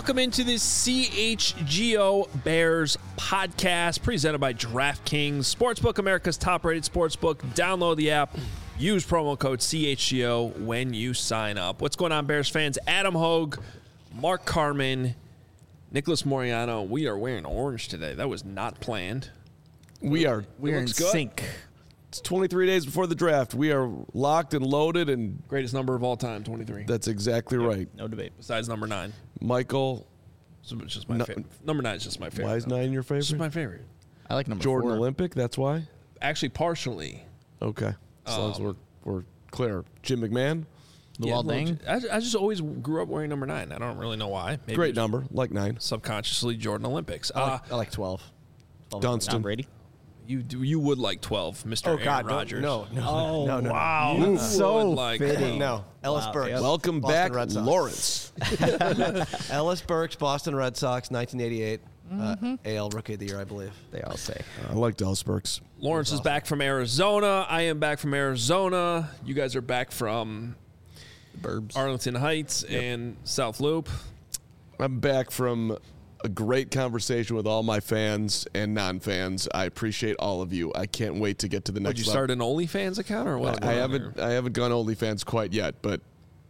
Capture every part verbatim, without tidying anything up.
Welcome into this C H G O Bears podcast presented by DraftKings Sportsbook, America's top-rated sportsbook. Download the app. Use promo code C H G O when you sign up. What's going on, Bears fans? Adam Hogue, Mark Carman, Nicholas Moriano. We are wearing orange today. That was not planned. We are. We're in looks good. sync. It's twenty-three days before the draft. We are locked and loaded, and Greatest number of all time, twenty-three. that's exactly right. No debate. Besides number nine. Michael, So it's just my No- favorite. Number nine is just my favorite. why is number. nine your It's just favorite? my favorite. I like number Jordan four. Olympic, that's why? Actually, partially. Okay. As long as Um, we're, we're clear. Jim McMahon, Luol well, Deng. I, I just always grew up wearing number nine. I don't really know why. Maybe great it's number, like nine. subconsciously Jordan Olympics. I Uh, like, I like twelve. twelve. Dunstan. Tom Brady. you do, you would like twelve, Mister Oh, Aaron God. No, Rodgers. no, no. Oh, no, no, wow. No. You So would like fitting. No. Ellis Wow, Burks. yep. Welcome Boston back, Red Sox. Lawrence. Ellis Burks, Boston Red Sox, nineteen eighty-eight. Mm-hmm. Uh, A L Rookie of the Year, I believe. They all say. I like Dallas Burks. Lawrence is back from Arizona. I am back from Arizona. You guys are back from Burbs. Arlington Heights and South Loop. I'm back from a great conversation with all my fans and non-fans. I appreciate all of you. I can't wait to get to the next Would you level. start an OnlyFans account or what? I haven't I haven't gone OnlyFans quite yet, but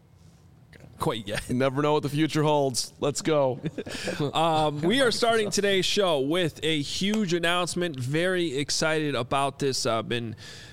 Quite yet. you never know what the future holds. Let's go. Um, we are starting today's show with a huge announcement. Very excited about this. I've been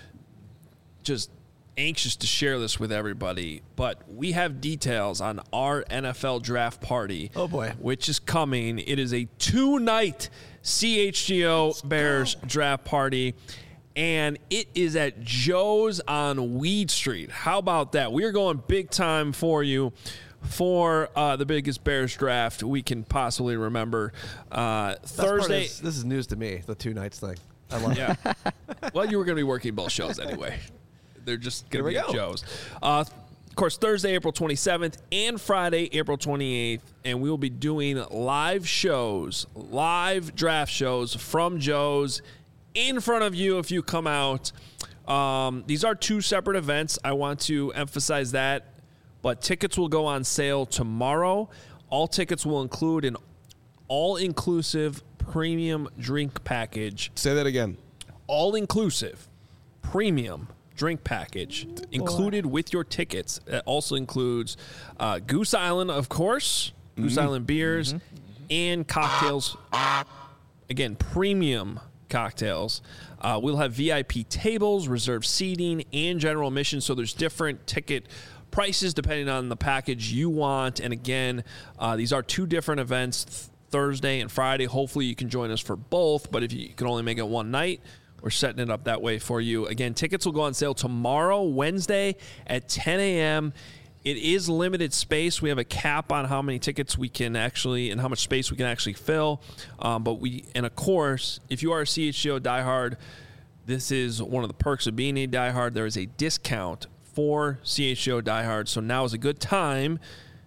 just anxious to share this with everybody. But we have details on our N F L draft party. Oh, boy. Which is coming. It is a two-night C H G O Bears draft party. And it is at Joe's on Weed Street. How about that? We are going big time for you for uh, the biggest Bears draft we can possibly remember. Uh, Best part Thursday. is, this is news to me, the two nights thing. I love it. Yeah. Well, you were going to be working both shows anyway. They're just going to Here be we at go. Joe's. Uh, of course, Thursday, April twenty-seventh, and Friday, April twenty-eighth. And we will be doing live shows, live draft shows from Joe's in front of you if you come out. Um, these are two separate events. I want to emphasize that. But tickets will go on sale tomorrow. All tickets will include an all-inclusive premium drink package. Say that again. All-inclusive premium drink package included with your tickets. It also includes uh, Goose Island, of course, Goose Island beers, and cocktails. Again, premium cocktails. Uh, we'll have V I P tables, reserved seating, and general admission. So there's different ticket prices depending on the package you want. And again, uh, these are two different events, th- Thursday and Friday. Hopefully you can join us for both. But if you can only make it one night, we're setting it up that way for you. Again, tickets will go on sale tomorrow, Wednesday at ten a.m. It is limited space. We have a cap on how many tickets we can actually and how much space we can actually fill. Um, but we, and of course, if you are a C H G O diehard, this is one of the perks of being a diehard. There is a discount for C H G O diehards. So now is a good time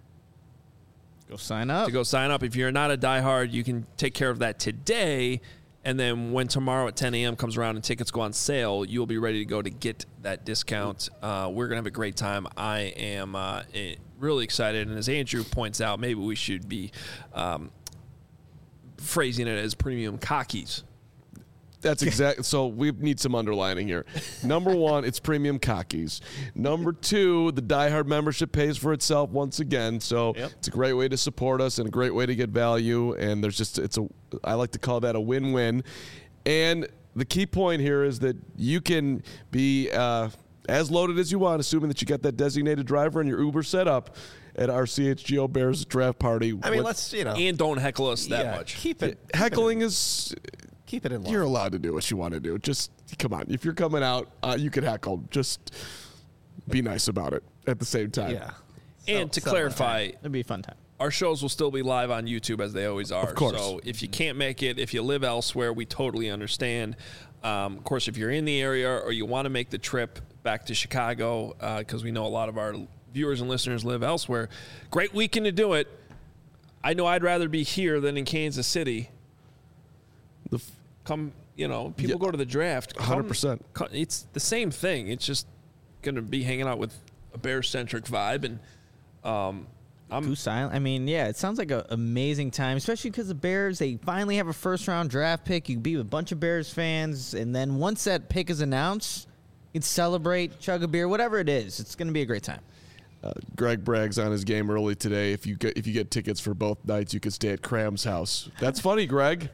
Go sign up. to go sign up. If you're not a diehard, you can take care of that today. And then when tomorrow at ten a.m. comes around and tickets go on sale, you'll be ready to go to get that discount. Uh, we're going to have a great time. I am uh, eh, really excited. And as Andrew points out, maybe we should be um, phrasing it as premium cockies. That's exactly. So we need some underlining here. Number one, it's premium cockies. Number two, the diehard membership pays for itself once again. So Yep. it's a great way to support us and a great way to get value. And there's just it's a I like to call that a win-win. And the key point here is that you can be uh, as loaded as you want, assuming that you got that designated driver and your Uber set up at our C H G O Bears draft party. I mean, What- let's, you know. And don't heckle us that yeah, much. Keep it. heckling is. Keep it in line. You're allowed to do what you want to do. Just come on. If you're coming out, uh, you can heckle. Just be nice about it at the same time. Yeah. And to So- clarify, It'd be a fun time. our shows will still be live on YouTube as they always are. Of course. So if you can't make it, if you live elsewhere, we totally understand. Um, of course, if you're in the area or you want to make the trip back to Chicago, because uh, we know a lot of our viewers and listeners live elsewhere, great weekend to do it. I know I'd rather be here than in Kansas City. The f- Come, you know, people Yeah. go to the draft. Come- one hundred percent. co- It's the same thing. It's just going to be hanging out with a Bears-centric vibe. And um, I'm Goose Island. I mean, yeah, it sounds like an amazing time, especially because the Bears, they finally have a first round draft pick. You can be with a bunch of Bears fans, and then once that pick is announced, you can celebrate, chug a beer, whatever it is. It's going to be a great time. Uh, Greg brags on his game early today. If you get if you get tickets for both nights, you could stay at Cram's house. That's funny, Greg.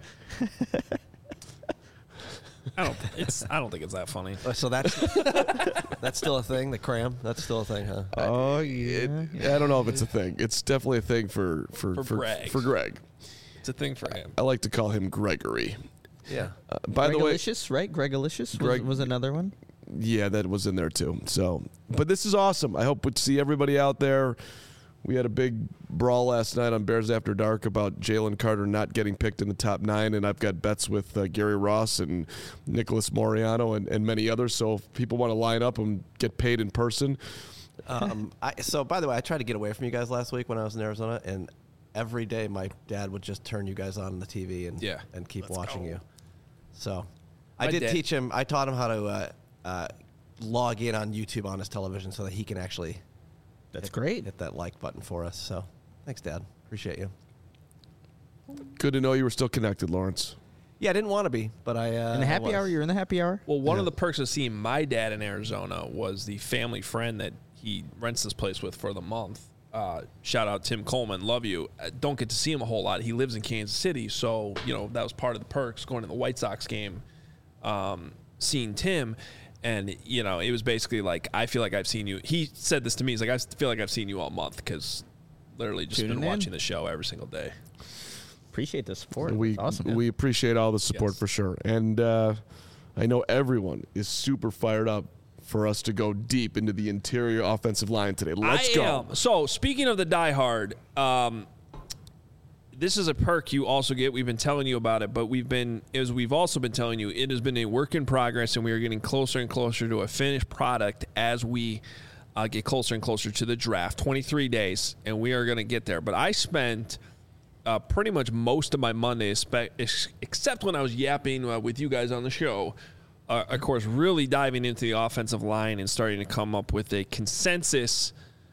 I don't. It's. I don't think it's that funny. Uh, So that's that's still a thing. The cram. That's still a thing, huh? Oh, It, I don't know if it's a thing. It's definitely a thing for for For for, Greg. for Greg. It's a thing for him. I like to call him Gregory. Yeah. Uh, by the way, Gregalicious, right? Gregalicious Greg- was, was another one. yeah, that was in there too. So, but this is awesome. I hope we see everybody out there. We had a big brawl last night on Bears After Dark about Jalen Carter not getting picked in the top nine, and I've got bets with uh, Gary Ross and Nicholas Moriano and, and many others. So if people want to line up and get paid in person, Um, I, so, by the way, I tried to get away from you guys last week when I was in Arizona, and every day my dad would just turn you guys on the T V and Yeah. and keep Let's watching go. you. So, I My did dad- teach him. I taught him how to uh, uh, log in on YouTube on his television so that he can actually That's hit, great. hit that like button for us. So, thanks, Dad. Appreciate you. good to know you were still connected, Lawrence. Yeah, I didn't want to be, but I. Uh, In the I happy was. hour, you're in the happy hour? Well, one Yeah. of the perks of seeing my dad in Arizona was the family friend that he rents this place with for the month. Uh, shout out Tim Coleman, love you. Uh, don't get to see him a whole lot. He lives in Kansas City, so you know that was part of the perks going to the White Sox game, um, seeing Tim, and you know it was basically like I feel like I've seen you. He said this to me. He's like I feel like I've seen you all month because literally just Tuning been in. watching the show every single day. Appreciate the support. We That's awesome. we appreciate all the support Yes. for sure, and uh, I know everyone is super fired up for us to go deep into the interior offensive line today. Let's I go. am. So speaking of the diehard, um, this is a perk you also get. We've been telling you about it, but we've been, as we've also been telling you, it has been a work in progress, and we are getting closer and closer to a finished product as we uh, get closer and closer to the draft. twenty-three days, and we are going to get there. But I spent uh, pretty much most of my Monday, espe- ex- except when I was yapping uh, with you guys on the show, uh, of course, really diving into the offensive line and starting to come up with a consensus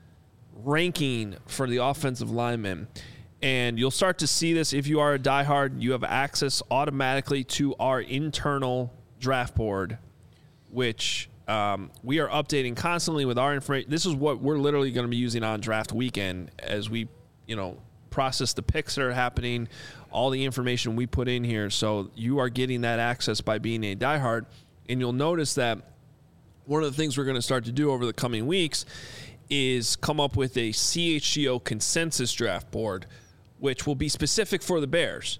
ranking for the offensive linemen. And you'll start to see this if you are a diehard. You have access automatically to our internal draft board, which um, we are updating constantly with our information. This is what we're literally going to be using on draft weekend as we, you know, process the picks that are happening, all the information we put in here. So you are getting that access by being a diehard. And you'll notice that one of the things we're going to start to do over the coming weeks is come up with a C H G O consensus draft board, which will be specific for the Bears.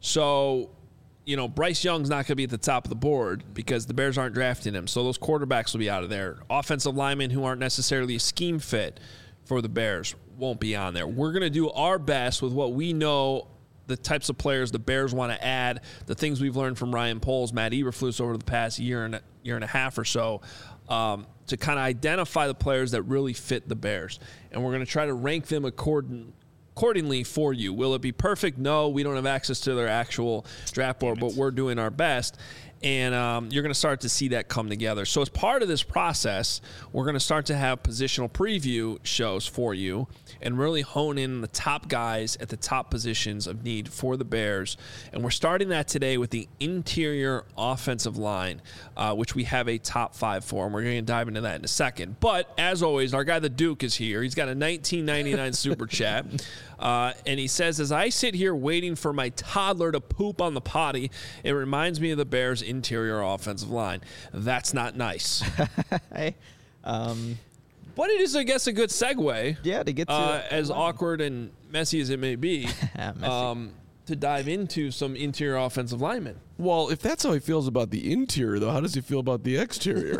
So, you know, Bryce Young's not going to be at the top of the board because the Bears aren't drafting him. So those quarterbacks will be out of there. Offensive linemen who aren't necessarily a scheme fit for the Bears won't be on there. We're going to do our best with what we know, the types of players the Bears want to add, the things we've learned from Ryan Poles, Matt Eberflus over the past year and a, year and a half or so, um, to kind of identify the players that really fit the Bears. And we're going to try to rank them according, accordingly for you. Will it be perfect? No, we don't have access to their actual draft board, but we're doing our best. And um, you're going to start to see that come together. So as part of this process, we're going to start to have positional preview shows for you and really hone in the top guys at the top positions of need for the Bears. And we're starting that today with the interior offensive line, uh, which we have a top five for. And we're going to dive into that in a second. But as always, our guy, the Duke, is here. He's got a nineteen ninety-nine super chat. Uh, and he says, as I sit here waiting for my toddler to poop on the potty, it reminds me of the Bears' interior offensive line. That's not nice. Hey, um, But it is, I guess, a good segue. yeah, to get to Uh, as awkward and messy as it may be, Messy. um, to dive into some interior offensive linemen. Well, if that's how he feels about the interior, though, how does he feel about the exterior?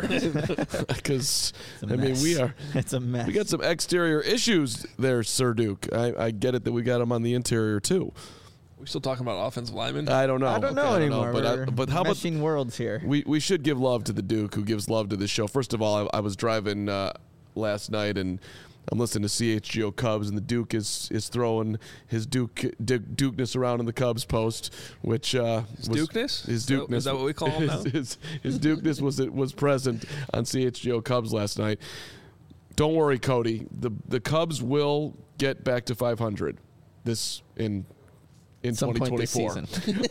Because It's a I mean, mess. we are It's a mess. we got some exterior issues there, Sir Duke. I, I get it that we got him on the interior too. We still talking about offensive linemen? I don't know. I don't know Okay, anymore. but I, We're but how about meshing worlds here? we we should give love to the Duke who gives love to this show. First of all, I, I was driving uh, last night and I'm listening to C H G O Cubs, and the Duke is is throwing his Duke Duke Dukeness around in the Cubs post, which uh, His was, Dukeness? His Is that- Dukeness is that what we call him now? His, his, his Dukeness was it was present on C H G O Cubs last night. Don't worry, Cody. The the Cubs will get back to five hundred this in in Some twenty point this twenty-four. season.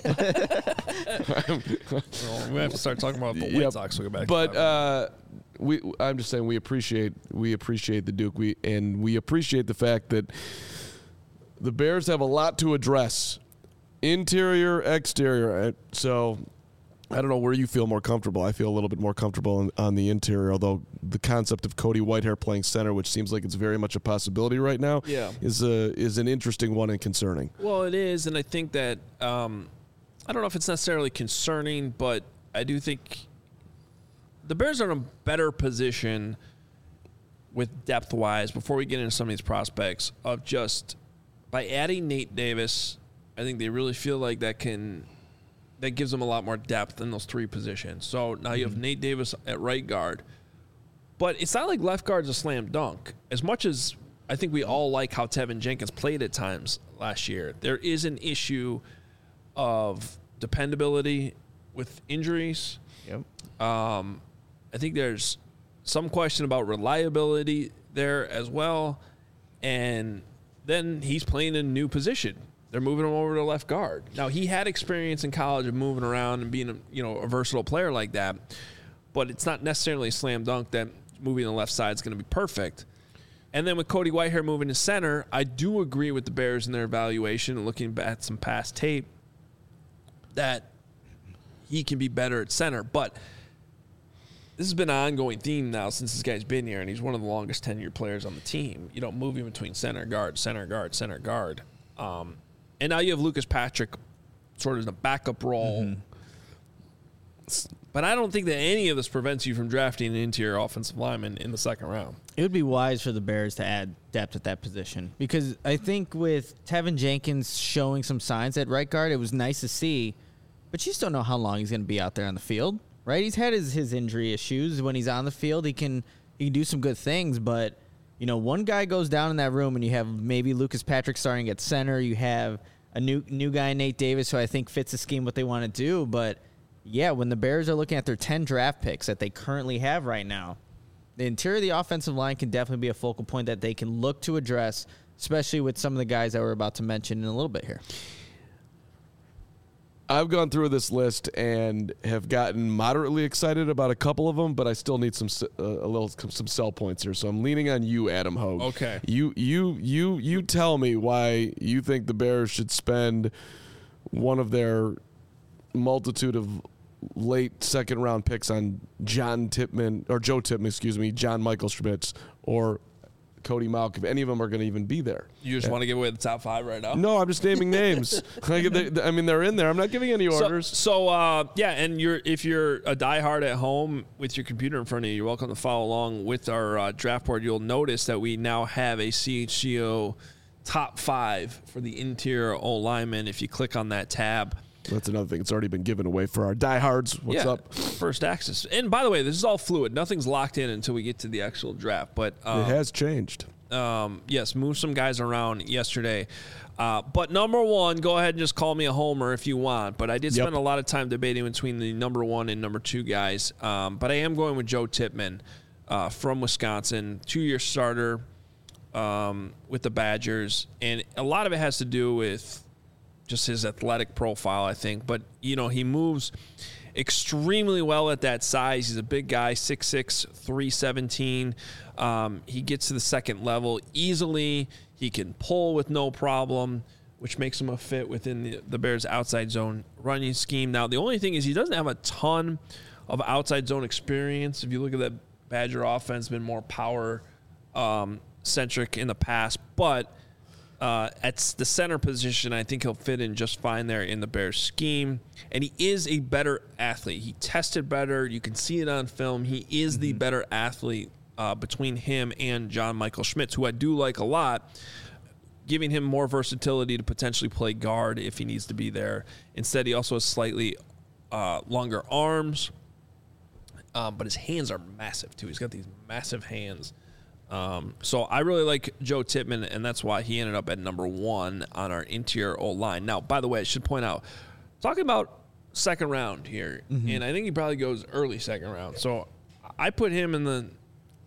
Well, we have to start talking about the White Yep. Sox. We'll go back. But to uh, we, I'm just saying, we appreciate we appreciate the Duke. We and we appreciate the fact that the Bears have a lot to address, interior, exterior. Uh, So I don't know where you feel more comfortable. I feel a little bit more comfortable on, on the interior, although the concept of Cody Whitehair playing center, which seems like it's very much a possibility right now, Yeah. is a is an interesting one and concerning. Well, it is, and I think that um, I don't know if it's necessarily concerning, but I do think the Bears are in a better position with depth-wise before we get into some of these prospects of just by adding Nate Davis. I think they really feel like that can that gives them a lot more depth in those three positions. So now you have Nate Davis at right guard, but it's not like left guard's a slam dunk. As much as I think we all like how Tevin Jenkins played at times last year, there is an issue of dependability with injuries. Yep. Um, I think there's some question about reliability there as well. And then he's playing in a new position. They're moving him over to left guard. Now, he had experience in college of moving around and being a, you know, a versatile player like that, but it's not necessarily a slam dunk that moving to the left side is going to be perfect. And then with Cody Whitehair moving to center, I do agree with the Bears in their evaluation and looking at some past tape that he can be better at center. But this has been an ongoing theme now since this guy's been here, and he's one of the longest tenured players on the team. You know, moving between center guard, center guard, center guard. Um, and now you have Lucas Patrick sort of in a backup role. Mm-hmm. But I don't think that any of this prevents you from drafting an interior offensive lineman in the second round. It would be wise for the Bears to add depth at that position because I think with Tevin Jenkins showing some signs at right guard, it was nice to see, but you just don't know how long he's going to be out there on the field, right? He's had his, his injury issues. When he's on the field, he can he can do some good things, but you know, one guy goes down in that room and you have maybe Lucas Patrick starting at center. You have a new new guy, Nate Davis, who I think fits the scheme what they want to do, but yeah, when the Bears are looking at their ten draft picks that they currently have right now, the interior of the offensive line can definitely be a focal point that they can look to address, especially with some of the guys that we're about to mention in a little bit here. I've gone through this list and have gotten moderately excited about a couple of them, but I still need some uh, a little some sell points here. So I'm leaning on you, Adam Hogue. Okay. You you you you tell me why you think the Bears should spend one of their multitude of late second round picks on John Tippmann or Joe Tippmann, excuse me, John Michael Schmitz or Cody Mauch, if any of them are going to even be there. You just yeah. want to give away the top five right now? No, I'm just naming names. Like, they, I mean, they're in there. I'm not giving any orders. So, so uh, yeah, and you're if you're a diehard at home with your computer in front of you, you're welcome to follow along with our uh, draft board. You'll notice that we now have a C H G O top five for the interior O lineman. If you click on that tab. That's another thing. It's already been given away for our diehards. What's yeah, up? First access. And by the way, this is all fluid. Nothing's locked in until we get to the actual draft. But um, it has changed. Um, yes, move some guys around yesterday. Uh, but number one, go ahead and just call me a homer if you want. But I did Yep. spend a lot of time debating between the number one and number two guys. Um, but I am going with Joe Tippmann uh, from Wisconsin, two-year starter um, with the Badgers. And a lot of it has to do with just his athletic profile, I think. But, you know, he moves extremely well at that size. He's a big guy, six six, three seventeen. Um, he gets to the second level easily. He can pull with no problem, which makes him a fit within the, the Bears' outside zone running scheme. Now, the only thing is he doesn't have a ton of outside zone experience. If you look at that Badger offense, been more power um, centric in the past, but Uh, at the center position, I think he'll fit in just fine there in the Bears scheme. And he is a better athlete. He tested better. You can see it on film. He is mm-hmm. the better athlete uh, between him and John Michael Schmitz, who I do like a lot, giving him more versatility to potentially play guard if he needs to be there. Instead, he also has slightly uh, longer arms, um, but his hands are massive, too. He's got these massive hands. Um, so I really like Joe Tippmann, and that's why he ended up at number one on our interior O-line. Now, by the way, I should point out, talking about second round here, mm-hmm. and I think he probably goes early second round. So I put him in the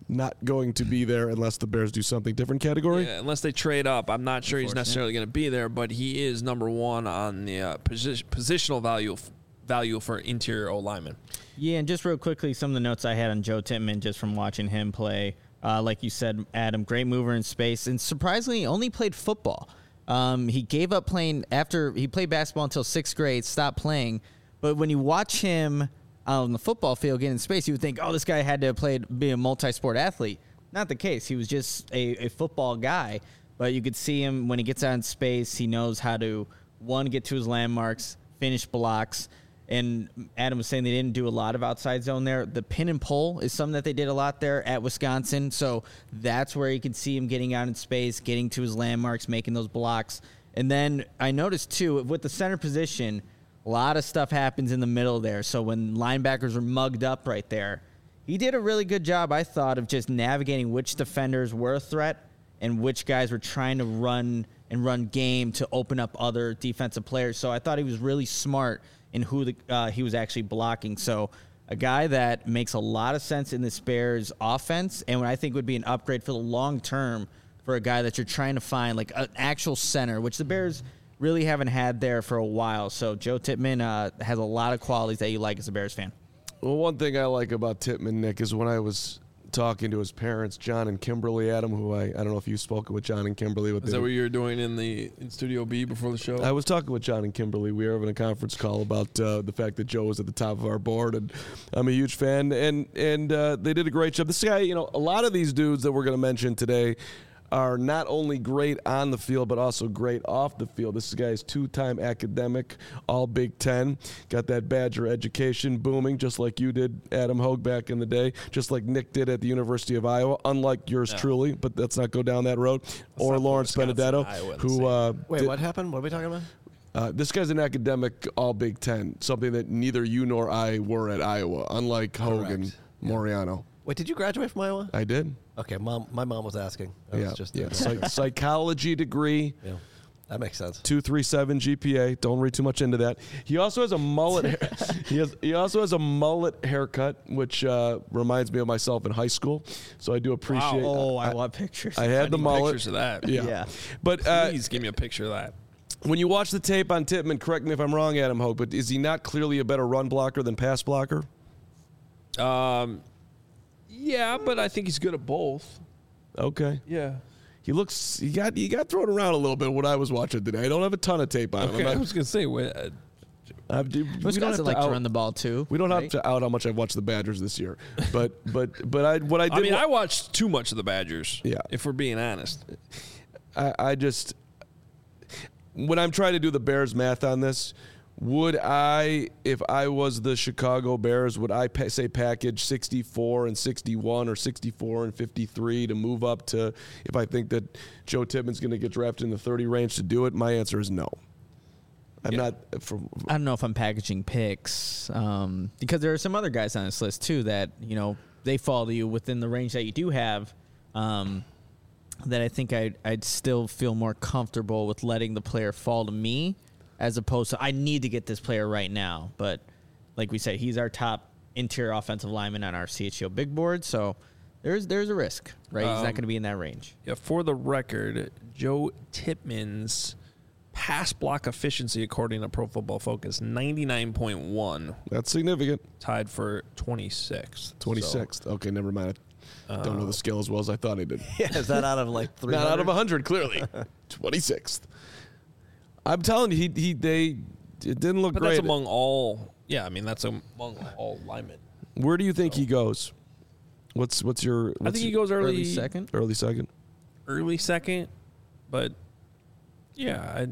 not going to be there unless the Bears do something different category? Yeah, unless they trade up. I'm not sure he's necessarily going to be there, but he is number one on the uh, posi- positional value value for interior O lineman. Yeah, and just real quickly, some of the notes I had on Joe Tippmann just from watching him play. Uh, like you said, Adam, great mover in space, and surprisingly, only played football. Um, he gave up playing after he played basketball until sixth grade, stopped playing. But when you watch him on the football field getting in space, you would think, oh, this guy had to have played, be a multi-sport athlete. Not the case. He was just a, a football guy. But you could see him when he gets out in space, he knows how to, one, get to his landmarks, finish blocks. And Adam was saying they didn't do a lot of outside zone there. The pin and pull is something that they did a lot there at Wisconsin. So that's where you can see him getting out in space, getting to his landmarks, making those blocks. And then I noticed, too, with the center position, a lot of stuff happens in the middle there. So when linebackers are mugged up right there, he did a really good job, I thought, of just navigating which defenders were a threat and which guys were trying to run and run game to open up other defensive players. So I thought he was really smart in who the, uh, he was actually blocking. So a guy that makes a lot of sense in this Bears offense and what I think would be an upgrade for the long term for a guy that you're trying to find, like an actual center, which the Bears really haven't had there for a while. So Joe Tippmann uh, has a lot of qualities that you like as a Bears fan. Well, one thing I like about Tippmann, Nick, is when I was talking to his parents, John and Kimberly Adam, who I, I don't know if you've spoken with John and Kimberly. With Is the, that what you were doing in the in Studio B before the show? I was talking with John and Kimberly. We were having a conference call about uh, the fact that Joe was at the top of our board, and I'm a huge fan. And and uh, they did a great job. This guy, you know, a lot of these dudes that we're going to mention today are not only great on the field, but also great off the field. This guy is two-time academic, all Big Ten. Got that Badger education booming, just like you did, Adam Hogue, back in the day, just like Nick did at the University of Iowa, unlike yours Yeah. truly, but let's not go down that road. Let's or not put Lawrence Wisconsin, Benedetto, Iowa in the who... same- Uh, Wait, did- what happened? What are we talking about? Uh, this guy's an academic all Big Ten, something that neither you nor I were at Iowa, unlike Hogue and Correct. Moriano. Wait, did you graduate from Iowa? I did. Okay, mom. My mom was asking. I yeah, was just yeah. Psych- psychology degree. yeah, that makes sense. two three seven G P A. Don't read too much into that. He also has a mullet. he has. He also has a mullet haircut, which uh, reminds me of myself in high school. So I do appreciate. Oh, I, I, want pictures. I had I the need mullet. pictures of that. Yeah. Yeah. But uh, Please give me a picture of that. when you watch the tape on Tippmann, correct me if I'm wrong, Adam Hogue, but is he not clearly a better run blocker than pass blocker? Um, yeah, but I think he's good at both. Okay. Yeah. He looks. He got. He got thrown around a little bit when I was watching today. I don't have a ton of tape on him. Okay, I'm I not- was gonna say, wait, uh, Uh, dude, we don't have Wisconsin to like out, to run the ball too. we don't have right? to out how much I've watched the Badgers this year, but but but I what I did. I mean, wa- I watched too much of the Badgers. Yeah. If we're being honest. I, I just when I'm trying to do the Bears math on this, would I, if I was the Chicago Bears, would I pa- say package sixty-four and sixty-one or sixty-four and fifty-three to move up to, if I think that Joe Tippmann's going to get drafted in the thirty range to do it? My answer is no. I'm Yeah. not. From, I don't know if I'm packaging picks um, because there are some other guys on this list too that you know they fall to you within the range that you do have. Um, that I think I'd, I'd still feel more comfortable with letting the player fall to me as opposed to I need to get this player right now. But like we said, he's our top interior offensive lineman on our C H G O big board, so there's there's a risk, right? he's not Um, going to be in that range. Yeah, for the record, Joe Tippmann's pass block efficiency, according to Pro Football Focus, ninety-nine point one, that's significant. tied for twenty-sixth. twenty-sixth. Okay, never mind. I don't Uh, know the skill as well as I thought I did. Yeah, is that out of like three? Not out of one hundred, clearly. twenty-sixth. I'm telling you, he, he they it didn't look But great. that's among all. Yeah, I mean that's among all linemen. Where do you think he goes? What's what's your? What's I think he your goes early, Early second. early second. early second, but yeah, I,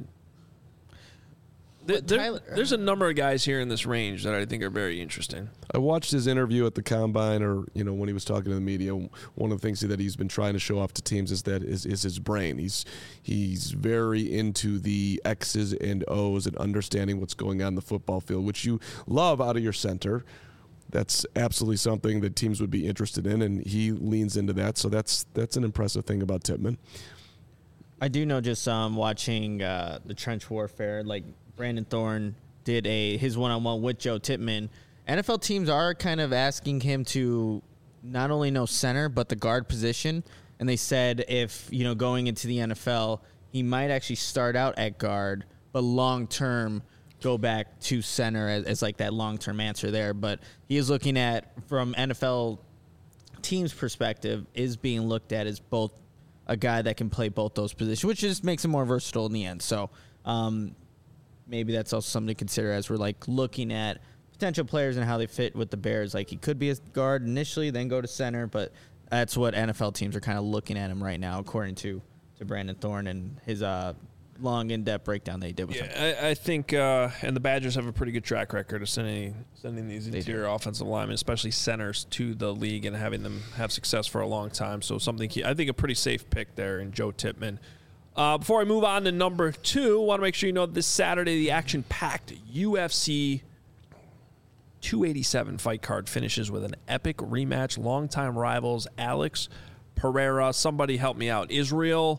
th- But there- Tyler- there's a number of guys here in this range that I think are very interesting. I watched his interview at the combine, or you know when he was talking to the media. One of the things that he's been trying to show off to teams is that is, is his brain. He's he's very into the X's and O's and understanding what's going on in the football field, which you love out of your center. That's absolutely something that teams would be interested in, and he leans into that. So that's that's an impressive thing about Tippmann. I do know just um, watching uh, the trench warfare, like Brandon Thorne did a his one-on-one with Joe Tippmann. N F L teams are kind of asking him to not only no center, but the guard position. And they said if, you know, going into the N F L, he might actually start out at guard, but long term go back to center as, as like that long term answer there. But he is looking at, from N F L team's perspective, is being looked at as both a guy that can play both those positions, which just makes him more versatile in the end. So um, maybe that's also something to consider as we're like looking at potential players and how they fit with the Bears. Like he could be a guard initially, then go to center, but that's what N F L teams are kind of looking at him right now, according to, to Brandon Thorne and his uh, long, in-depth breakdown they did with yeah, him. I, I think, uh, and the Badgers have a pretty good track record of sending sending these They interior do. offensive linemen, especially centers, to the league and having them have success for a long time. So something key, I think a pretty safe pick there in Joe Tippmann. Uh, before I move on to number two, I want to make sure you know this Saturday the action-packed U F C two eighty-seven fight card finishes with an epic rematch. Longtime rivals Alex Pereira. Somebody help me out. Israel.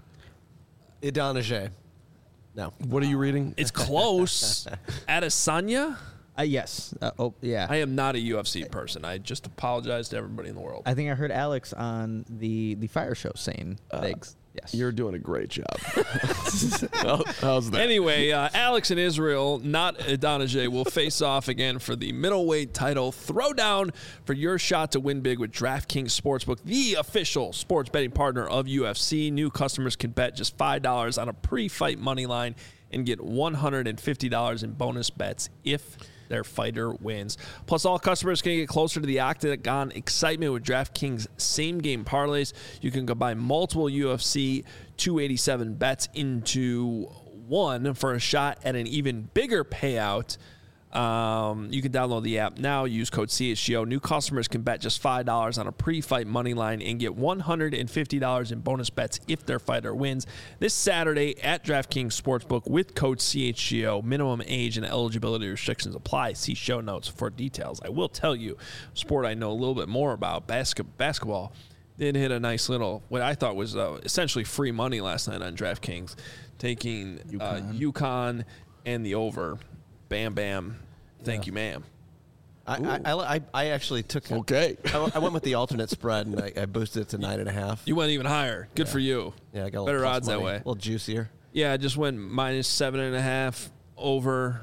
Idonije. No. What are you reading? It's close. Adesanya. Uh, yes. Uh, oh, yeah. I am not a U F C person. I just apologize to everybody in the world. I think I heard Alex on the, the Fire Show saying things. Yes. You're doing a great job. How- How's that? Anyway, uh, Alex and Israel, not Idonije, will face off again for the middleweight title throwdown for your shot to win big with DraftKings Sportsbook, the official sports betting partner of U F C. New customers can bet just five dollars on a pre-fight money line and get one hundred fifty dollars in bonus bets if their fighter wins. Plus, all customers can get closer to the octagon excitement with DraftKings same-game parlays. You can combine multiple U F C two eighty-seven bets into one for a shot at an even bigger payout. Um, you can download the app now. Use code C H G O. New customers can bet just five dollars on a pre-fight money line and get one hundred fifty dollars in bonus bets if their fighter wins. This Saturday at DraftKings Sportsbook with code C H G O. Minimum age and eligibility restrictions apply. See show notes for details. I will tell you, sport I know a little bit more about, basket, basketball, did hit a nice little, what I thought was uh, essentially free money last night on DraftKings, taking uh, UConn and the over. Bam, bam. Thank you, ma'am. I, I, I, I actually took. Okay. I, I went with the alternate spread and I, I boosted it to nine and a half. You went even higher. Good for you. Yeah, I got a little better plus odds that money, way. A little juicier. Yeah, I just went minus seven and a half over.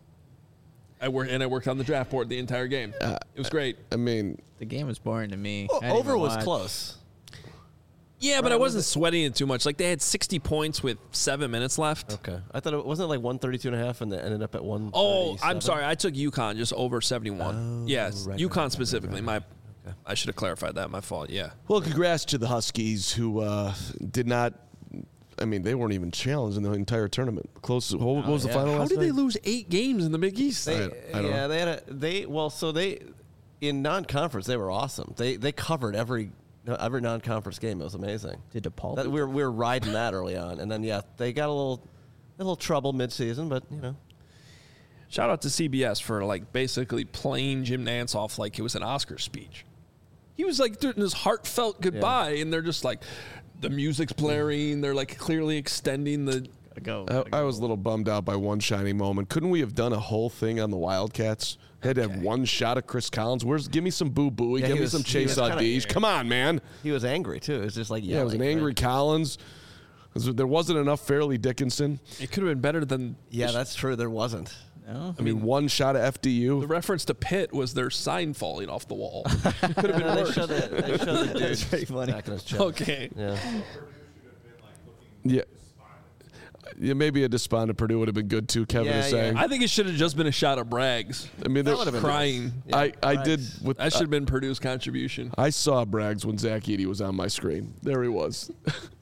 I worked and I worked on the draft board the entire game. Uh, it was great. I mean, The game was boring to me. Well, I didn't over even was watch. close. Yeah, but Right, I was wasn't sweating it too much. Like they had sixty points with seven minutes left. Okay. I thought it wasn't like one thirty-two and a half and it ended up at one. Oh, I'm sorry. I took UConn just over seventy-one. Oh, yes, right, UConn right, right, specifically. right, right. My, I should have clarified that. My fault. Yeah. well, congrats to the Huskies who uh, did not. I mean, they weren't even challenged in the entire tournament. Close. What, what was the yeah. final? How last did they night? lose eight games in the Big East? They, I- I don't yeah, know. they had a they well, so they in non-conference they were awesome. They they covered every every non-conference game. It was amazing. Did DePaul? That, beat we were we were riding that early on, and then yeah, they got a little a little trouble mid-season, but you know. Shout out to C B S for like basically playing Jim Nantz off like it was an Oscar speech. He was like doing this heartfelt goodbye, and they're just like, the music's blaring. They're like clearly extending the. go. I, I was a little bummed out by one shiny moment. Couldn't we have done a whole thing on the Wildcats? Had to have Okay. one shot of Chris Collins. Where's give me some Boo Booey, Yeah, give he me was- some he Chase was kinda- Audige. Come on, man. He was angry too. It was just like Yeah, it was an yelling, angry right? Collins. There wasn't enough Fairleigh Dickinson. It could have been better than. Yeah, that's true. There wasn't. No? I mean, one shot of F D U. The reference to Pitt was their sign falling off the wall. Could have been They worse. showed the, they showed the dude That's pretty funny. back in his chest. Okay. Yeah. Yeah. Yeah, maybe a despondent Purdue would have been good too. Kevin Yeah, is yeah. saying. I think it should have just been a shot of Braggs. I mean, there- That would have been Crying. nice. I, Yeah, I right. did with That should have been Purdue's contribution. I saw Braggs when Zach Edey was on my screen. There he was.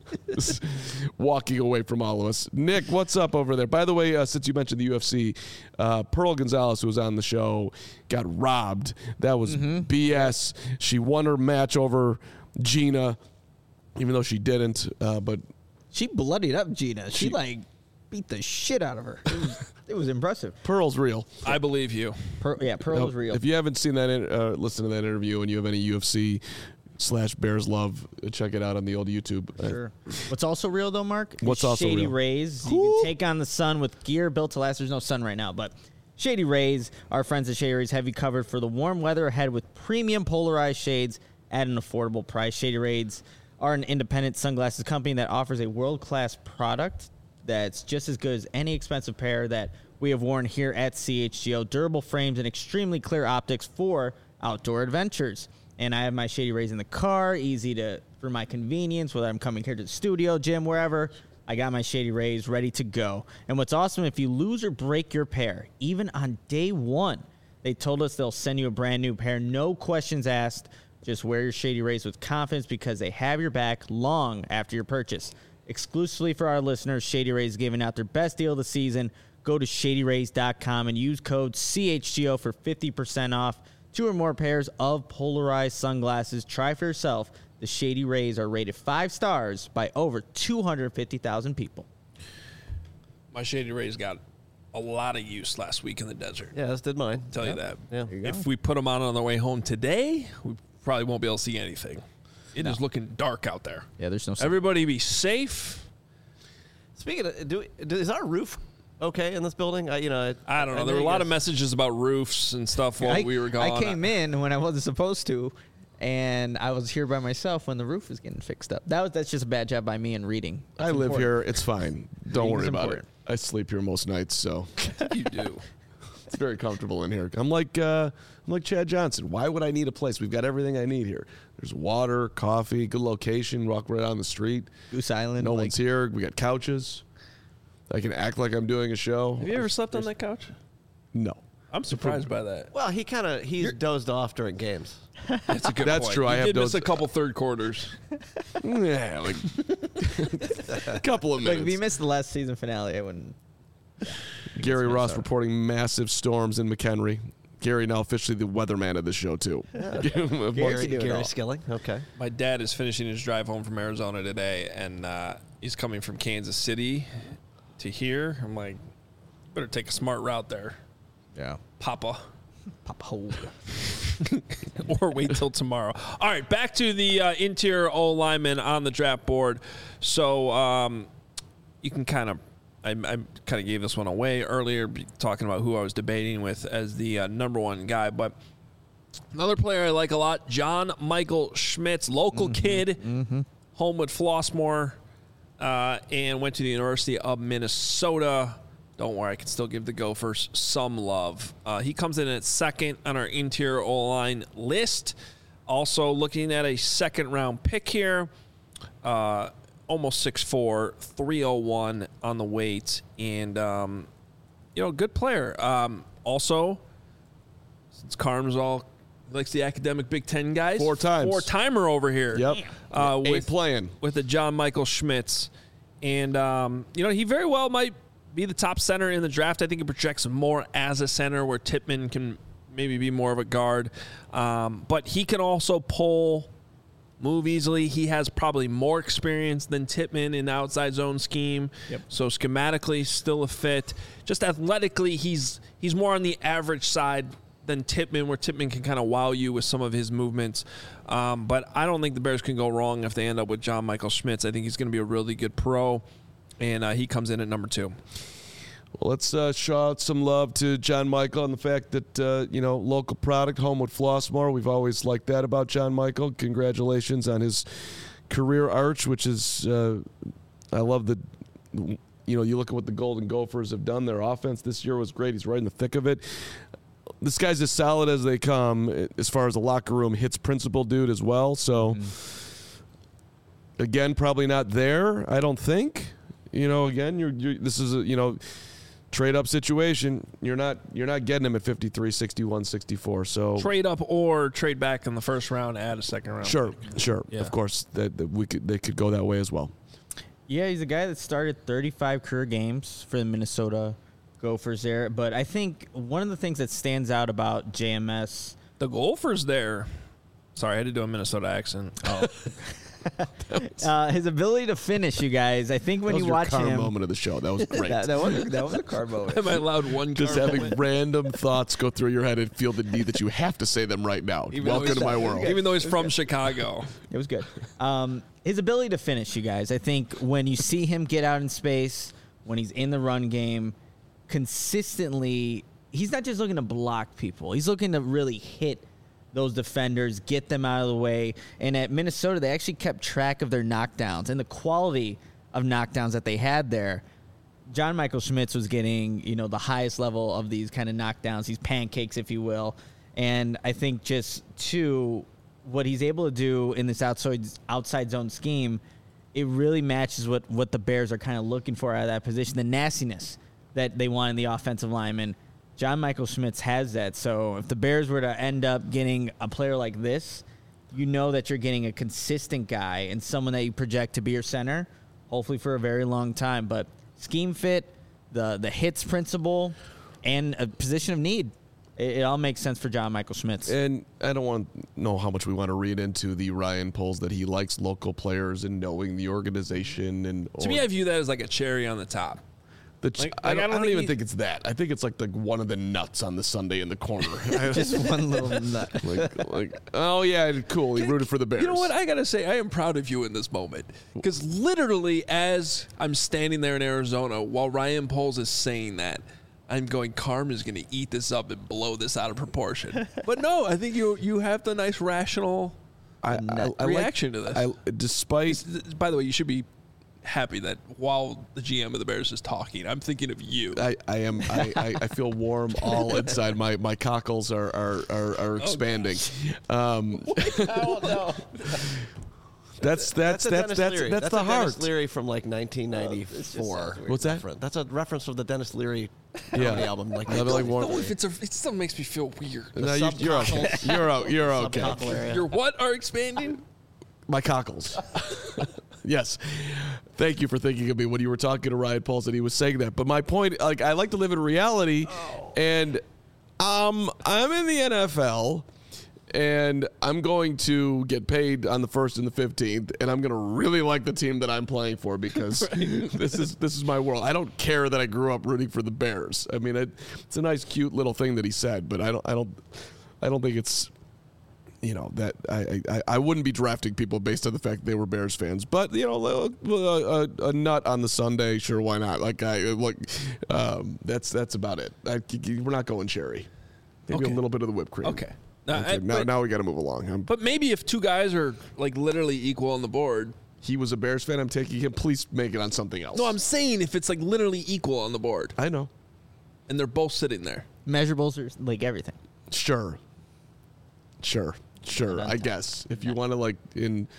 Walking away from all of us. Nick, what's up over there? By the way, uh, since you mentioned the U F C, uh, Pearl Gonzalez, who was on the show, got robbed. That was B S. She won her match over Gina, even though she didn't. Uh, but She bloodied up Gina. She, She- like beat the shit out of her. It was, it was impressive. Pearl's real. I believe you. Per, yeah, Pearl Now, was real. If you haven't seen that, in- uh, listen to that interview, and you have any U F C slash Bears love, uh, check it out on the old YouTube. Uh, Sure. What's also real though, Mark? is What's also Shady real? Rays. You Who? can take on the sun with gear built to last. There's no sun right now, but Shady Rays, our friends at Shady Rays have you covered for the warm weather ahead with premium polarized shades at an affordable price. Shady Rays are an independent sunglasses company that offers a world-class product that's just as good as any expensive pair that we have worn here at C H G O. Durable frames and extremely clear optics for outdoor adventures. And I have my Shady Rays in the car, easy to for my convenience, whether I'm coming here to the studio, gym, wherever. I got my Shady Rays ready to go. And what's awesome, if you lose or break your pair, even on day one, they told us they'll send you a brand new pair. No questions asked. Just wear your Shady Rays with confidence because they have your back long after your purchase. Exclusively for our listeners, Shady Rays is giving out their best deal of the season. Go to shady rays dot com and use code C H G O for fifty percent off. Two or more pairs of polarized sunglasses. Try for yourself. The Shady Rays are rated five stars by over two hundred fifty thousand people. My Shady Rays got a lot of use last week in the desert. Yeah, as did mine. I'll tell Yep. you that. Yeah. you go. If we put them on on the way home today, we probably won't be able to see anything. It No. is looking dark out there. Yeah, there's no Everybody be safe. Speaking of, do, do is our roof okay in this building? I, you know, I don't know. There were a you lot guys- of messages about roofs and stuff while I, we were gone. I came in when I wasn't supposed to, and I was here by myself when the roof was getting fixed up. That was that's just a bad job by me in reading. I That's live important. here. It's fine. Don't Reading worry is about important. it. I sleep here most nights, so You do. it's very comfortable in here. I'm like uh, I'm like Chad Johnson. Why would I need a place? We've got everything I need here. There's water, coffee, good location. Walk right down the street. Goose Island. No like, one's here. We got couches. I can act like I'm doing a show. Have you ever slept on that couch? No. I'm surprised by that. Well, he kind of he's dozed off during games. That's a good That's point. true. You I have did miss those- a couple third quarters. Yeah, like a couple of Like minutes. if you missed the last season finale, I wouldn't. Gary Ross reporting massive storms in McHenry. Gary now officially the weatherman of the show too. Give him a Gary bunch- do it Gary all. Skilling. Okay. My dad is finishing his drive home from Arizona today, and uh, he's coming from Kansas City to here. I'm like, better take a smart route there, Yeah. Papa. Pop hole. Or wait till tomorrow. All right, back to the uh, interior O lineman on the draft board. So um, you can kind of, I, I kind of gave this one away earlier, be- talking about who I was debating with as the uh, number one guy. But another player I like a lot, John Michael Schmitz, local kid, home with Flossmoor, uh, and went to the University of Minnesota. Don't worry, I can still give the Gophers some love. Uh, he comes in at second on our interior O-line list. Also looking at a second-round pick here. Uh, almost six foot four, three oh one on the weight. And, um, you know, good player. Um, also, since Carm's all likes the academic Big Ten guys. Four times. Four-timer over here. Yep. Uh, Eight with, playing. with the John Michael Schmitz. And, um, you know, he very well might be the top center in the draft. I think he projects more as a center where Tippmann can maybe be more of a guard. Um, but he can also pull, move easily. He has probably more experience than Tippmann in the outside zone scheme. Yep. So schematically, still a fit. Just athletically, he's he's more on the average side than Tippmann, where Tippmann can kind of wow you with some of his movements. Um, but I don't think the Bears can go wrong if they end up with John Michael Schmitz. I think he's going to be a really good pro. And uh, he comes in at number two. Well, let's uh, show out some love to John Michael and the fact that, uh, you know, local product, home with Flossmoor. We've always liked that about John Michael. Congratulations on his career arch, which is, uh, I love the, you know, you look at what the Golden Gophers have done. Their offense this year was great. He's right in the thick of it. This guy's as solid as they come as far as the locker room hits principal dude as well. So, mm-hmm. again, probably not there, I don't think. You know, again, you're, you're this is a, you know, trade up situation. You're not you're not getting him at fifty-three, sixty-one, sixty-four. So Trade up or trade back in the first round, add a second round. sure, sure. Yeah. Of course that, that we could they could go that way as well. Yeah, he's a guy that started thirty-five career games for the Minnesota Gophers there. But I think one of the things that stands out about J M S. The Gophers there. Sorry, I had to do a Minnesota accent. Oh. Uh, his ability to finish, you guys. I think when that was you your watch car him, moment of the show. That was great. that, that was that was a car moment. Am I allowed one Just car having moment? random thoughts go through your head and feel the need that you have to say them right now. Even though Welcome he's- to my world. Even though he's from Chicago. It was good. Um, his ability to finish, you guys. I think when you see him get out in space, when he's in the run game, consistently he's not just looking to block people. He's looking to really hit those defenders, get them out of the way. And at Minnesota, they actually kept track of their knockdowns and the quality of knockdowns that they had there. John Michael Schmitz was getting, you know, the highest level of these kind of knockdowns, these pancakes, if you will. And I think just, too, what he's able to do in this outside outside zone scheme, it really matches what, what the Bears are kind of looking for out of that position, the nastiness that they want in the offensive lineman. John Michael Schmitz has that. So if the Bears were to end up getting a player like this, you know that you're getting a consistent guy and someone that you project to be your center, hopefully for a very long time. But scheme fit, the the hits principle, and a position of need. It, it all makes sense for John Michael Schmitz. And I don't want to know how much we want to read into the Ryan Poles that he likes local players and knowing the organization. And To me, I view that as like a cherry on the top. The ch- Like- I like, don't, I I don't don't think even he- think it's that. I think it's like the one of the nuts on the Sunday in the corner. Just one little nut. like, like, oh yeah, cool. He rooted for the Bears. You know what? I gotta say, I am proud of you in this moment because literally, as I'm standing there in Arizona, while Ryan Poles is saying that, I'm going, Carm is gonna eat this up and blow this out of proportion. But no, I think you you have the nice rational I, I, I reaction like, to this. I, despite By the way, you should be happy that while the G M of the Bears is talking, I'm thinking of you. I, I am I, I, I feel warm all inside. My my cockles are are are, are expanding. um, Oh, no. that's that's a that's Dennis that's Leary. that's, That's the a heart. Dennis Leary from like nineteen ninety-four. What's that? Reference. That's a reference from the Dennis Leary Yeah. comedy album. Like, Another, like, warm- No, if it's a, it still makes me feel weird. No, you, you're okay. You're o- you're okay. Subcockle area. Your what are expanding? My cockles. Yes. Thank you for thinking of me when you were talking to Ryan Poles and he was saying that. But my point, like, I like to live in reality, and um, I'm in the N F L, and I'm going to get paid on the first and the fifteenth, and I'm going to really like the team that I'm playing for because this is this is my world. I don't care that I grew up rooting for the Bears. I mean, it, it's a nice, cute little thing that he said, but I don't, I don't, I don't think it's. You know that I, I I wouldn't be drafting people based on the fact that they were Bears fans, but you know a, a, a nut on the Sunday, sure, why not? Like I like um, that's that's about it. I, we're not going cherry. Maybe Okay. a little bit of the whipped cream. Okay. Uh, Okay, I- now, but, now we got to move along. I'm, but maybe if two guys are like literally equal on the board. he was a Bears fan. I'm taking him. Please make it on something else. No, I'm saying if it's like literally equal on the board I know. and they're both sitting there. Measurables are like everything. Sure. Sure. Sure. I guess if you want to like in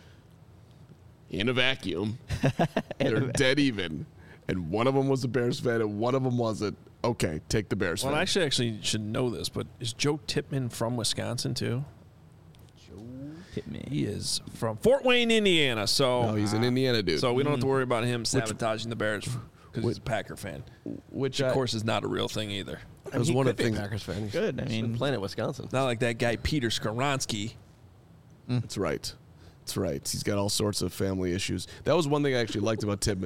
in a vacuum, they're dead even, and one of them was a Bears fan and one of them wasn't. Okay, take the Bears Well, fan. I actually actually should know this, but is Joe Tippmann from Wisconsin too? Hit me. He is from Fort Wayne, Indiana. So no, he's an Indiana dude. So we don't have to worry about him sabotaging the Bears because he's which- a Packer fan. which Of I- course is not a real thing either. that was he one could of the be a things. Packers fan. He's- Good, I he's been mean- playing at Wisconsin. Not like that guy Peter Skoronsky. That's right. That's right. He's got all sorts of family issues. That was one thing I actually liked about Tippmann.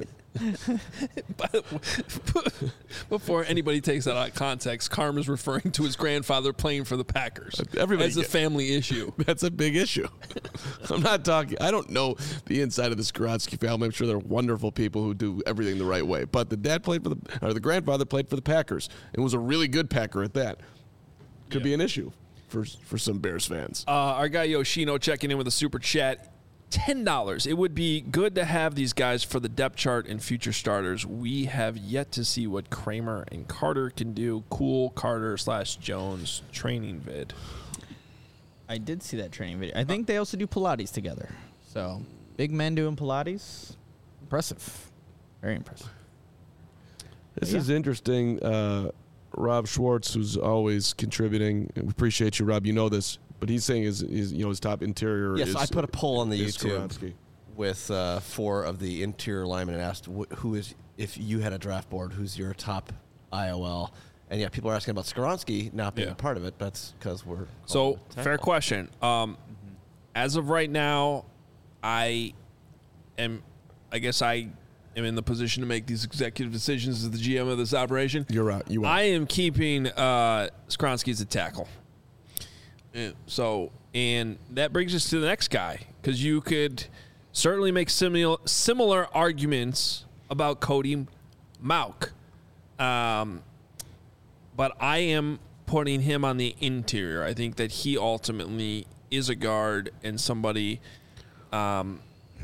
Before anybody takes that out of context, Carm is referring to his grandfather playing for the Packers. Everybody as a get- family issue. That's a big issue. I'm not talking. I don't know the inside of the Skoronsky family. I'm sure they're wonderful people who do everything the right way. But the dad played for the, or the grandfather played for the Packers and was a really good Packer at that. Could be an issue for for some Bears fans. Uh, our guy Yoshino checking in with a super chat. ten dollars. It would be good to have these guys for the depth chart and future starters. We have yet to see what Kramer and Carter can do. Cool Carter slash Jones training vid. I did see that training video. I think they also do Pilates together. So big men doing Pilates, impressive, very impressive. This Yeah. is interesting. Uh, Rob Schwartz, who's always contributing, we appreciate you, Rob. You know this, but he's saying his, his you know his top interior. Yes, is, I put a poll on the is YouTube Skoronsky. with uh, four of the interior linemen and asked wh- who is, if you had a draft board, who's your top I O L? And yeah, people are asking about Skoronsky not being Yeah. a part of it. That's because we're So, calling it fair tackle. question. Um, as of right now, I am, I guess I am in the position to make these executive decisions as the G M of this operation. You're right. You are. I am keeping uh, Skronsky as a tackle. Yeah, So, and that brings us to the next guy, because you could certainly make similar similar arguments about Cody Mauk. Um, but I am putting him on the interior. I think that he ultimately is a guard and somebody um,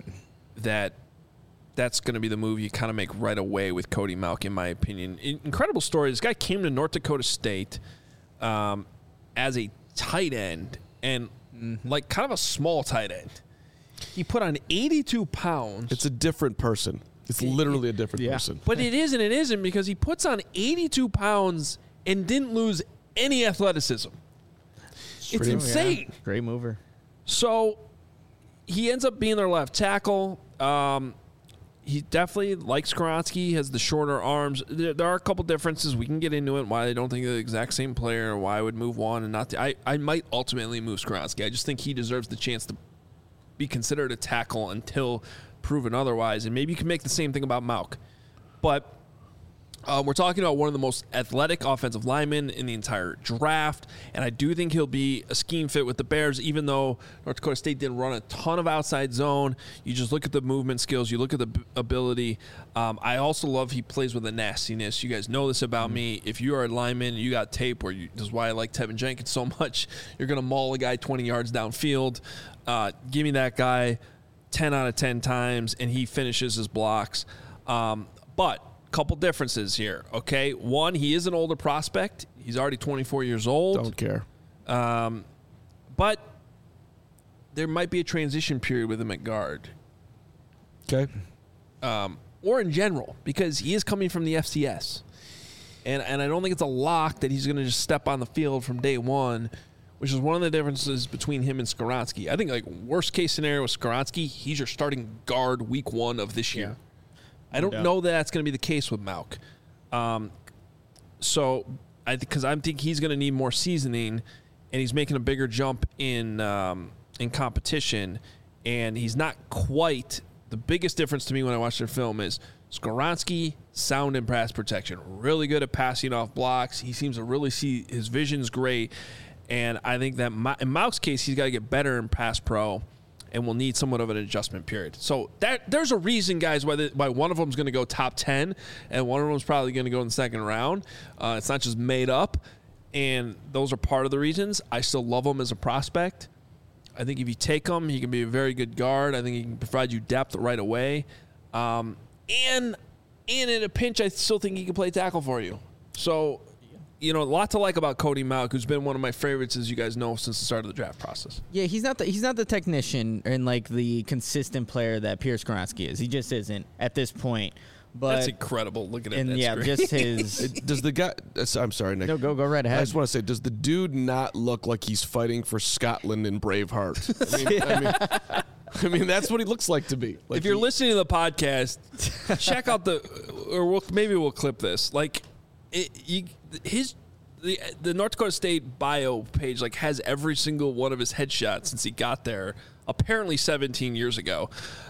that that's going to be the move you kind of make right away with Cody Mauch, in my opinion. In- incredible story. This guy came to North Dakota State um, as a tight end and mm-hmm. like kind of a small tight end. He put on eighty-two pounds. It's a different person. It's literally a different yeah. person. But it is and it isn't, because he puts on eighty-two pounds and didn't lose any athleticism. It's pretty- insane. Yeah. Great mover. So he ends up being their left tackle. Um, he definitely, like Skoronski, has the shorter arms. There, there are a couple differences. We can get into it, why they don't think they're the exact same player, why I would move one and not the, I, I might ultimately move Skoronski. I just think he deserves the chance to be considered a tackle until proven otherwise. And maybe you can make the same thing about Mauch. But um, we're talking about one of the most athletic offensive linemen in the entire draft, and I do think he'll be a scheme fit with the Bears, even though North Dakota State didn't run a ton of outside zone. You just look at the movement skills, you look at the b- ability. Um, I also love he plays with a nastiness. You guys know this about mm-hmm. me. If you are a lineman, you got tape, where you, this is why I like Tevin Jenkins so much. You're going to maul a guy twenty yards downfield. Uh, give me that guy ten out of ten times, and he finishes his blocks. Um, but couple differences here, okay? One, he is an older prospect. He's already twenty-four years old. Don't care. Um, but there might be a transition period with him at guard. Okay. Um, or in general, because he is coming from the F C S. And and I don't think it's a lock that he's going to just step on the field from day one, which is one of the differences between him and Skoronski. I think, like, worst case scenario with Skoronski, he's your starting guard week one of this year. Yeah. I don't Yeah. know that that's going to be the case with Mauch. Um, so I think because I think he's going to need more seasoning, and he's making a bigger jump in um, in competition, and he's not quite. The biggest difference to me when I watch their film is Skoronski, sound in pass protection, really good at passing off blocks. He seems to really see his vision's great, and I think that Ma- in Mauch's case, he's got to get better in pass pro, and will need somewhat of an adjustment period. So that there's a reason, guys, why, the, why one of them is going to go top ten, and one of them is probably going to go in the second round. Uh, it's not just made up, and those are part of the reasons. I still love him as a prospect. I think if you take him, he can be a very good guard. I think he can provide you depth right away. Um, and, and in a pinch, I still think he can play tackle for you. So, you know, a lot to like about Cody Mauch, who's been one of my favorites, as you guys know, since the start of the draft process. Yeah, he's not the he's not the technician and like the consistent player that Pierce Skoronski is. He just isn't at this point. But That's incredible. Look at it. and That's yeah, great. just his. It- does the guy? uh, I'm sorry, Nick. No, go go right ahead. I just want to say, does the dude not look like he's fighting for Scotland in Braveheart? I mean, I mean, I mean, that's what he looks like to be. Like if you're he- listening to the podcast, check out the, or we'll, maybe we'll clip this. Like, it, you, his the the North Dakota State bio page like has every single one of his headshots since he got there. Apparently, seventeen years ago.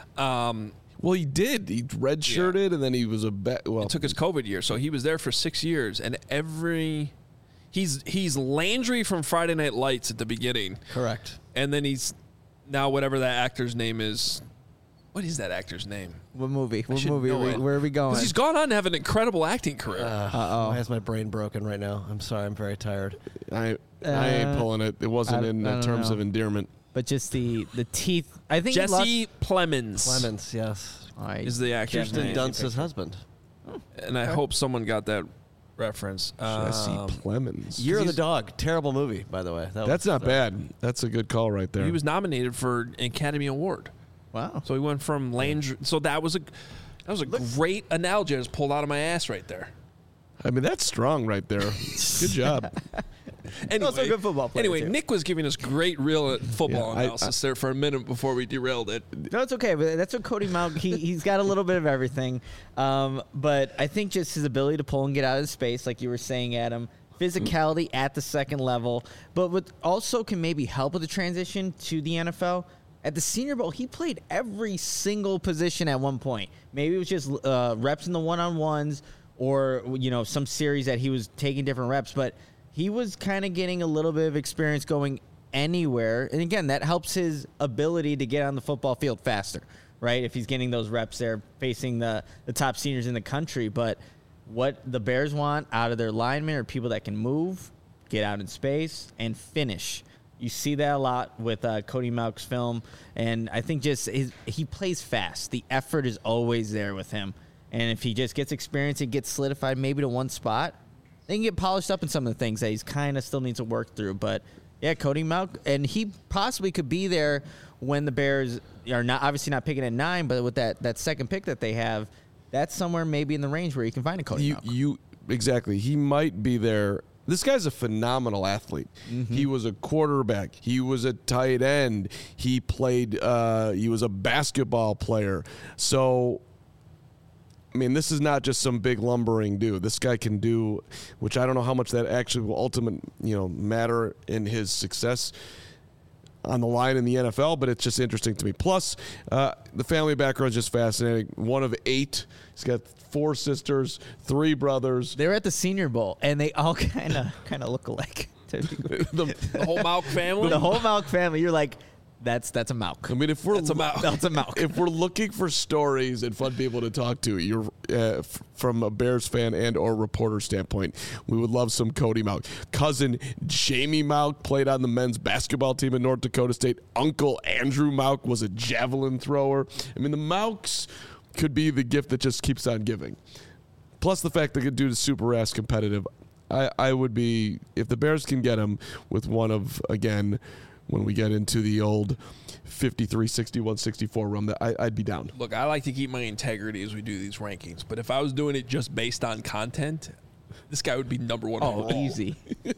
Um, well, he did. He redshirted, and then he was a bet. Well, It took his COVID year, so he was there for six years, and every he's he's Landry from Friday Night Lights at the beginning, Correct. and then he's now whatever that actor's name is. What is that actor's name? What movie? What should movie? Are know we, it. where are we going? Because he's gone on to have an incredible acting career. Uh, Uh-oh. Why is my brain broken right now? I'm sorry. I'm very tired. I, I ain't Uh, pulling it. It wasn't I- in I uh, don't terms know. of endearment. But just the the teeth. I think he lost- Jesse Plemons Clemens, yes. I is the actor's Kirsten name, Dunst's husband. and I hope someone got that reference. Jesse Um, Plemons. Year of the he's- Dog. Terrible movie, by the way. That That's was, not uh, bad. That's a good call right there. he was nominated for an Academy Award. Wow. So he went from Landry. So that was a that was a great analogy I just pulled out of my ass right there. I mean, that's strong right there. Good job. Anyway, Also a good football player, Anyway, too. Nick was giving us great real football Yeah, I- analysis there for a minute before we derailed it. No, it's okay. But that's what Cody Mauch. He he's got a little bit of everything. Um, but I think just his ability to pull and get out of space, like you were saying, Adam. Physicality at the second level, but what also can maybe help with the transition to the N F L. At the Senior Bowl, he played every single position at one point. Maybe it was just uh, reps in the one-on-ones, or you know, some series that he was taking different reps. But he was kind of getting a little bit of experience going anywhere. And again, that helps his ability to get on the football field faster, right? If he's getting those reps there facing the, the top seniors in the country. But What the Bears want out of their linemen are people that can move, get out in space, and finish. You see that a lot with uh, Cody Mauch's film, and I think just his, he plays fast. The effort is always there with him, and if he just gets experience and gets solidified maybe to one spot, they can get polished up in some of the things that he's kind of still needs to work through. But yeah, Cody Mauch, and he possibly could be there when the Bears are not obviously not picking at nine, but with that that second pick that they have, that's somewhere maybe in the range where you can find a Cody You, Mauch. you exactly. He might be there. This guy's a phenomenal athlete. Mm-hmm. He was a quarterback. He was a tight end. He played. Uh, he was a basketball player. So, I mean, this is not just some big lumbering dude. This guy can do, which I don't know how much that actually will ultimate, you know, matter in his success on the line in the N F L, but it's just interesting to me. Plus, uh, the family background is just fascinating. One of eight. He's got four sisters, three brothers. They were at the Senior Bowl, and they all kind of kind of look alike. the, the whole Mauch family? The whole Mauch family. You're like, that's that's a Mauch. I mean, if we're That's a Mauch. That's a Mauch. if we're looking for stories and fun people to talk to, you're uh, f- from a Bears fan and or reporter standpoint, we would love some Cody Mauch. Cousin Jamie Mauch played on the men's basketball team at North Dakota State. Uncle Andrew Mauch was a javelin thrower. I mean, the Mauchs could be the gift that just keeps on giving. Plus the fact that the dude is super ass competitive. I, I would be, if the Bears can get him with one of, again, when we get into the old fifty-three, sixty-one, sixty-four run, that I, I'd be down. Look, I like to keep my integrity as we do these rankings, but if I was doing it just based on content, this guy would be number one. Oh, overall. easy.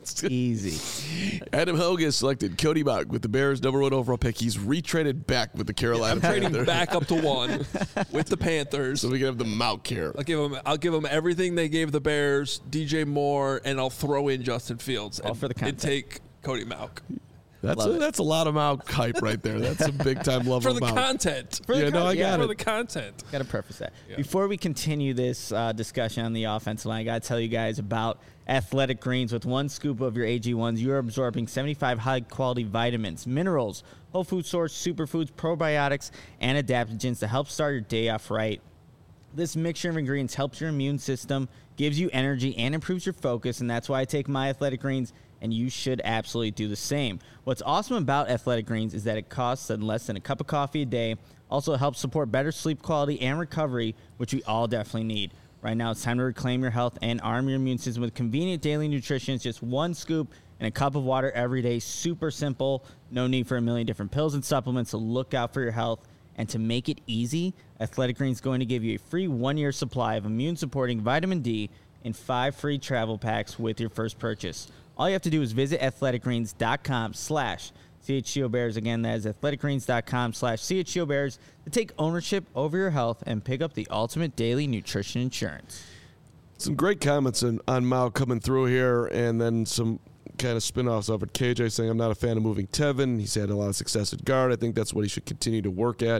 Easy. Adam Hogan selected Cody Mauch with the Bears' number one overall pick. He's retraded back with the Carolina I'm trading Panthers. back up to one with the Panthers. So we can have the Mauch here. I'll give them. I'll give them everything they gave the Bears, D J Moore, and I'll throw in Justin Fields. All and, for the and content. take Cody Mauch That's Love a, it. that's a lot of Mauch hype right there. That's a big time love for of the Mauch. content. For the Yeah, no, con- I yeah, got for it. the content. Got to preface that. Yeah. Before we continue this uh, discussion on the offensive line, I got to tell you guys about Athletic Greens. With one scoop of your A G ones, you are absorbing seventy-five high-quality vitamins, minerals, whole food source, superfoods, probiotics, and adaptogens to help start your day off right. This mixture of ingredients helps your immune system, gives you energy, and improves your focus, and that's why I take my Athletic Greens, and you should absolutely do the same. What's awesome about Athletic Greens is that it costs less than a cup of coffee a day, also helps support better sleep quality and recovery, which we all definitely need. Right now, it's time to reclaim your health and arm your immune system with convenient daily nutrition. It's just one scoop and a cup of water every day. Super simple. No need for a million different pills and supplements, so look out for your health. And to make it easy, Athletic Greens is going to give you a free one-year supply of immune-supporting vitamin D and five free travel packs with your first purchase. All you have to do is visit athleticgreens.com slash CHGOBears. Again, that is athleticgreens.com slash CHGOBears to take ownership over your health and pick up the ultimate daily nutrition insurance. Some great comments on, on Mauch coming through here, and then some kind of spin-offs of it. K J saying, I'm not a fan of moving Tevin. He's had a lot of success at guard. I think that's what he should continue to work at.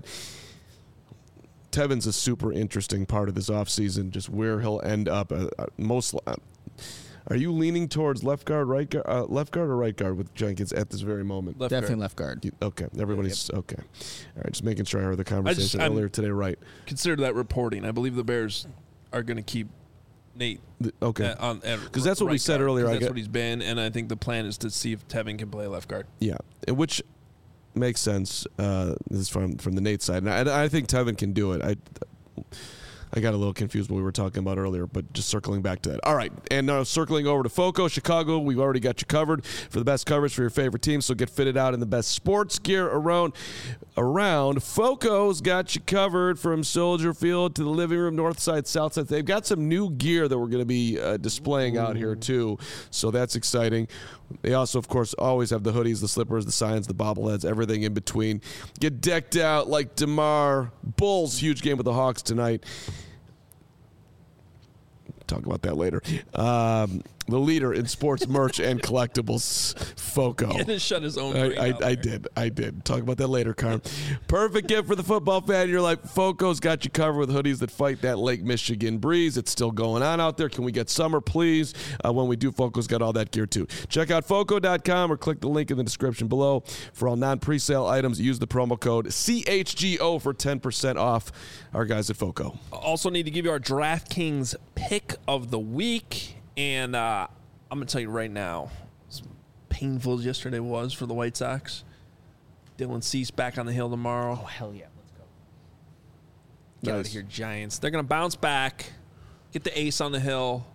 Tevin's a super interesting part of this offseason, just where he'll end up. Uh, uh, most. Uh, are you leaning towards left guard, right guard, uh, left guard, or right guard with Jenkins at this very moment? Left Definitely guard. left guard. You- okay, everybody's okay. All right, just making sure I heard the conversation I'm- earlier today. Right? Consider that reporting. I believe the Bears are going to keep Nate. The- okay. Uh, on Because that's what we said earlier, I That's get- what he's been, and I think the plan is to see if Tevin can play left guard. Yeah, and which makes sense. Uh, this is from from the Nate side, and I, I think Tevin can do it. I I got a little confused what we were talking about earlier, but just circling back to that. All right, and now circling over to FOCO, Chicago, we've already got you covered for the best coverage for your favorite team, so get fitted out in the best sports gear around. Around FOCO's got you covered from Soldier Field to the living room, north side, south side. They've got some new gear that we're going to be uh, displaying out here too, so that's exciting. They also, of course, always have the hoodies, the slippers, the signs, the bobbleheads, everything in between. Get decked out like DeMar. Bulls, huge game with the Hawks tonight. Talk about that later. Um, the leader in sports merch and collectibles, FOCO. He had to shut his own I, brain I, out I there. did. I did. Talk about that later, Carm. Perfect gift for the football fan. You're like, FOCO's got you covered with hoodies that fight that Lake Michigan breeze. It's still going on out there. Can we get summer, please? Uh, when we do, FOCO's got all that gear, too. Check out foco dot com or click the link in the description below. For all non-presale items, use the promo code C H G O for ten percent off. Our guys at FOCO. Also need to give you our DraftKings pick of the week. And uh, I'm going to tell you right now, as painful as yesterday was for the White Sox, Dylan Cease back on the hill tomorrow. Oh, hell yeah. Let's go. Get out Nice. of here, Giants. They're going to bounce back, get the ace on the hill,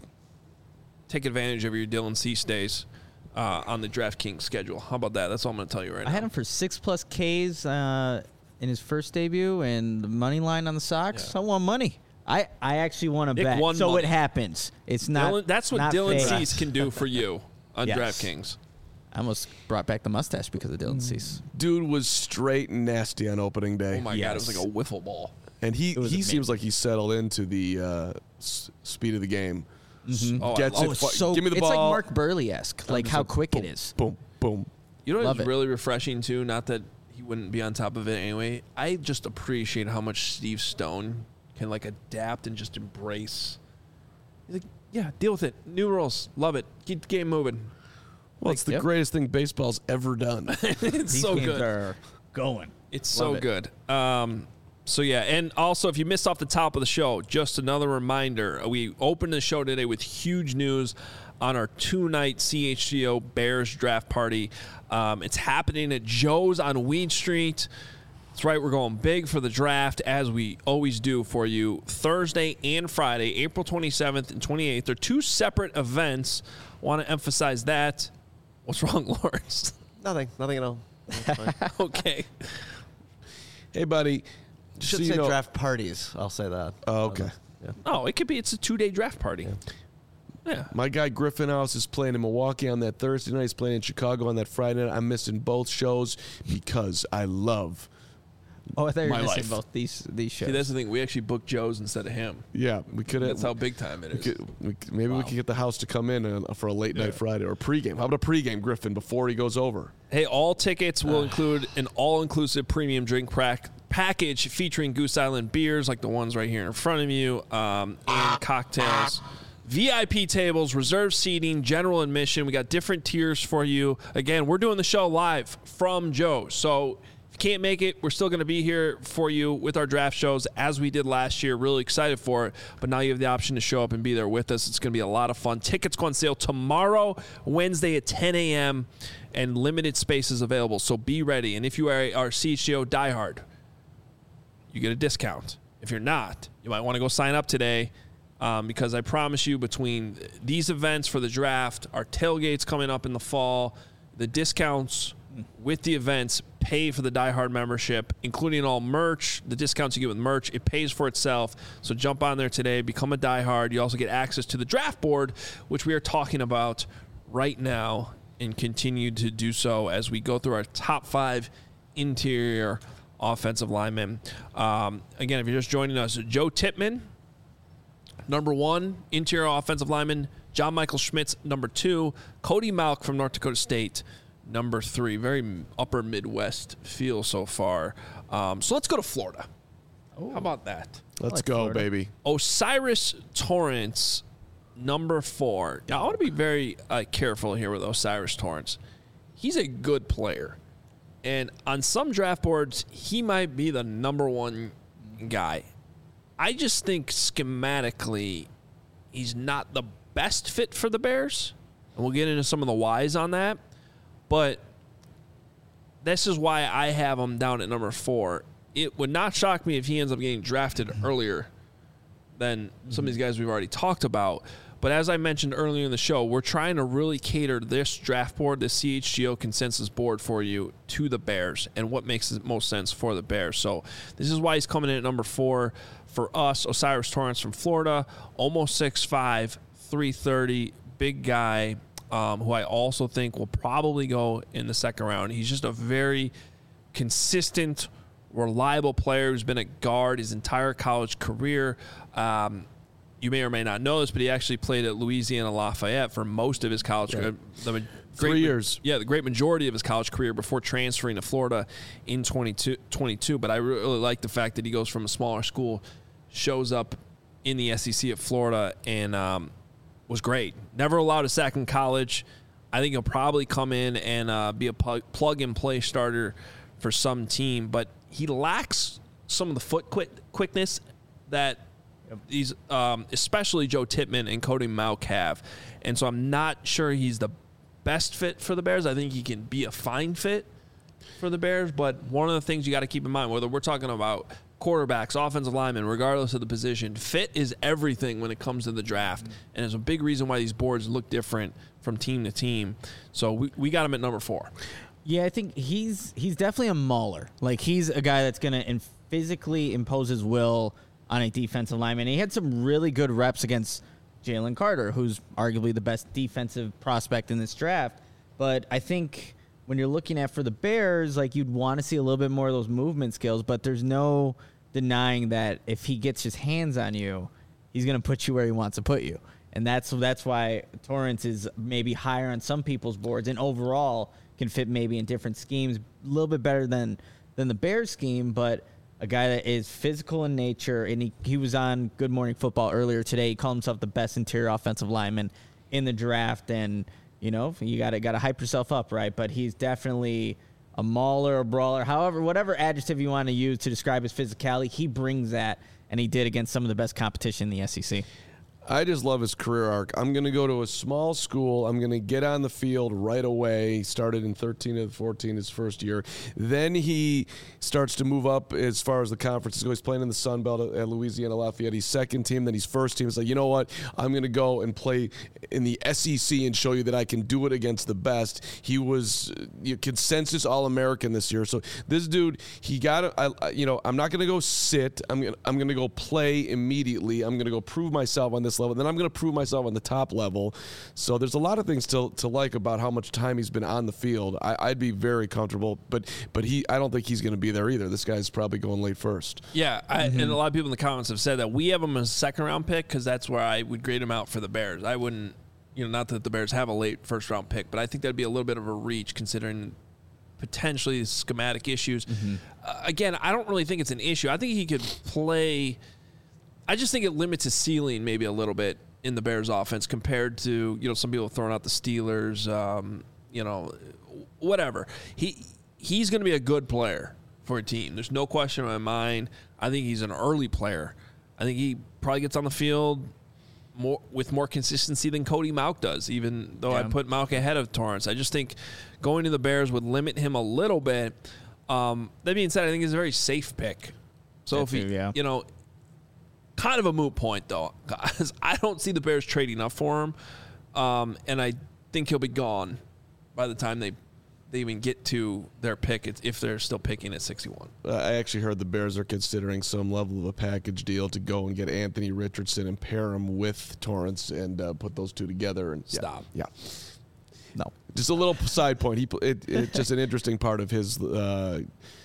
take advantage of your Dylan Cease days uh, on the DraftKings schedule. How about that? That's all I'm going to tell you right I now. had him for six plus Ks uh, in his first debut, and the money line on the Sox. Yeah. I won money. I, I actually want to Nick bet. won So money. it happens. It's not. Dylan, that's what not Dylan fake. Cease can do for you on Yes. DraftKings. I almost brought back the mustache because of Dylan Cease. Dude was straight and nasty on opening day. Oh, my God. It was Yes. like a wiffle ball. And he, It was he amazing. seems like he settled into the uh, s- speed of the game. Oh, I Gets love it. Oh, it's fu- so. give me the it's ball. like Mark Burley-esque, like Just how like, quick boom, it is. Boom, boom. You know Love what's it. really refreshing, too? Not that he wouldn't be on top of it anyway. I just appreciate how much Steve Stone can, like, adapt and just embrace. He's like, yeah, deal with it. New rules. Love it. Keep the game moving. Well, it's the yep. greatest thing baseball's ever done. It's These so games good. are going. It's so Love it. good. Um, so, yeah. And also, if you missed off the top of the show, just another reminder. We opened the show today with huge news on our two-night C H G O Bears draft party. Um, it's happening at Joe's on Weed Street. That's right. We're going big for the draft, as we always do for you. Thursday and Friday, April twenty-seventh and twenty-eighth. They're two separate events. Want to emphasize that. What's wrong, Lawrence? Nothing. Nothing at all. That's fine. Okay. Hey, buddy. just Should so you say know- draft parties. I'll say that. Oh, okay. Yeah. Oh, it could be. It's a two-day draft party. Yeah. My guy Griffin House is playing in Milwaukee on that Thursday night. He's playing in Chicago on that Friday night. I'm missing both shows because I love. Oh, I thought you were My missing life. both these these shows. See, that's the thing. We actually booked Joe's instead of him. Yeah, we could have. That's how big time it We is. could, we, could- maybe we could get the house to come in uh, for a late Yeah. night Friday or a pregame. How about a pregame, Griffin, before he goes over? Hey, all tickets will include an all-inclusive premium drink prac- package featuring Goose Island beers like the ones right here in front of you, um, and cocktails. V I P tables, reserved seating, general admission. We got different tiers for you. Again, we're doing the show live from Joe's. So if you can't make it, we're still going to be here for you with our draft shows as we did last year. Really excited for it. But now you have the option to show up and be there with us. It's going to be a lot of fun. Tickets go on sale tomorrow, Wednesday at ten a.m., and limited spaces available. So be ready. And if you are our C H G O diehard, you get a discount. If you're not, you might want to go sign up today. Um, because I promise you, between these events for the draft, our tailgates coming up in the fall, the discounts with the events pay for the Die Hard membership, including all merch, the discounts you get with merch. It pays for itself. So jump on there today, become a Die Hard. You also get access to the draft board, which we are talking about right now, and continue to do so as we go through our top five interior offensive linemen. Um, again, if you're just joining us, Joe Tippmann, number one, interior offensive lineman. John Michael Schmitz, number two. Cody Malk from North Dakota State, number three. Very upper Midwest feel so far. Um, so let's go to Florida. How about that? Let's like go, Florida. baby. Osiris Torrance, number four. Now, I want to be very uh, careful here with Osiris Torrance. He's a good player. And on some draft boards, he might be the number one guy. I just think schematically, he's not the best fit for the Bears. And we'll get into some of the whys on that. But this is why I have him down at number four. It would not shock me if he ends up getting drafted earlier than some of these guys we've already talked about. But as I mentioned earlier in the show, we're trying to really cater this draft board, the C H G O consensus board for you, to the Bears and what makes the most sense for the Bears. So this is why he's coming in at number four for us. Osiris Torrance from Florida, almost six five, three thirty, big guy, um, who I also think will probably go in the second round. He's just a very consistent, reliable player who's been a guard his entire college career. Um, you may or may not know this, but he actually played at Louisiana Lafayette for most of his college Yeah. career. The ma- Three great, years. Yeah, the great majority of his college career before transferring to Florida in twenty-two, twenty-two. But I really like the fact that he goes from a smaller school, shows up in the S E C at Florida, and um, was great. Never allowed a sack in college. I think he'll probably come in and uh, be a plug, plug-and-play starter for some team, but he lacks some of the foot quick, quickness that these, um, especially Joe Tippmann and Cody Mauch have. And so I'm not sure he's the best fit for the Bears. I think he can be a fine fit for the Bears, but one of the things you got to keep in mind, whether we're talking about quarterbacks, offensive linemen, regardless of the position, fit is everything when it comes to the draft. And it's a big reason why these boards look different from team to team. So we, we got him at number four. Yeah, I think he's he's definitely a mauler. Like, he's a guy that's going to in physically impose his will on a defensive lineman. He had some really good reps against Jalen Carter, who's arguably the best defensive prospect in this draft. But I think when you're looking at for the Bears, like, you'd want to see a little bit more of those movement skills, but there's no denying that if he gets his hands on you, he's going to put you where he wants to put you. And that's that's why Torrence is maybe higher on some people's boards and overall can fit maybe in different schemes, a little bit better than, than the Bears scheme, but a guy that is physical in nature. And he, he was on Good Morning Football earlier today. He called himself the best interior offensive lineman in the draft. And, you know, you got to got to hype yourself up, right? But he's definitely a mauler, a brawler, however, whatever adjective you want to use to describe his physicality, he brings that, and he did against some of the best competition in the S E C. I just love his career arc. I'm going to go to a small school. I'm going to get on the field right away. He started in thirteen and fourteen his first year. Then he starts to move up as far as the conferences go. He's playing in the Sun Belt at Louisiana Lafayette. He's second team, then he's first team. It's like, you know what? I'm going to go and play in the S E C and show you that I can do it against the best. He was uh, consensus All-American this year. So this dude, he got I, I you know, I'm not going to go sit. I'm going I'm going to go play immediately. I'm going to go prove myself on this level. Then I'm going to prove myself on the top level. So there's a lot of things to to like about how much time he's been on the field. I, I'd be very comfortable, but but he I don't think he's going to be there either. This guy's probably going late first. Yeah, I, and a lot of people in the comments have said that we have him as a second round pick because that's where I would grade him out for the Bears. I wouldn't, you know, not that the Bears have a late first round pick, but I think that'd be a little bit of a reach considering potentially schematic issues. Mm-hmm. Uh, again, I don't really think it's an issue. I think he could play. I just think it limits his ceiling maybe a little bit in the Bears offense compared to, you know, some people throwing out the Steelers, um, you know, whatever. He he's going to be a good player for a team. There's no question in my mind. I think he's an early player. I think he probably gets on the field more with more consistency than Cody Mauch does, even though yeah. I put Mauch ahead of Torrence. I just think going to the Bears would limit him a little bit. Um, that being said, I think he's a very safe pick. So that if he, too, yeah. you know, kind of a moot point, though, because I don't see the Bears trading up for him, um, and I think he'll be gone by the time they they even get to their pick, if they're still picking at sixty-one. Uh, I actually heard the Bears are considering some level of a package deal to go and get Anthony Richardson and pair him with Torrence and uh, put those two together. And Stop. Yeah. yeah. No. Just a little side point. He it, It's just an interesting part of his uh,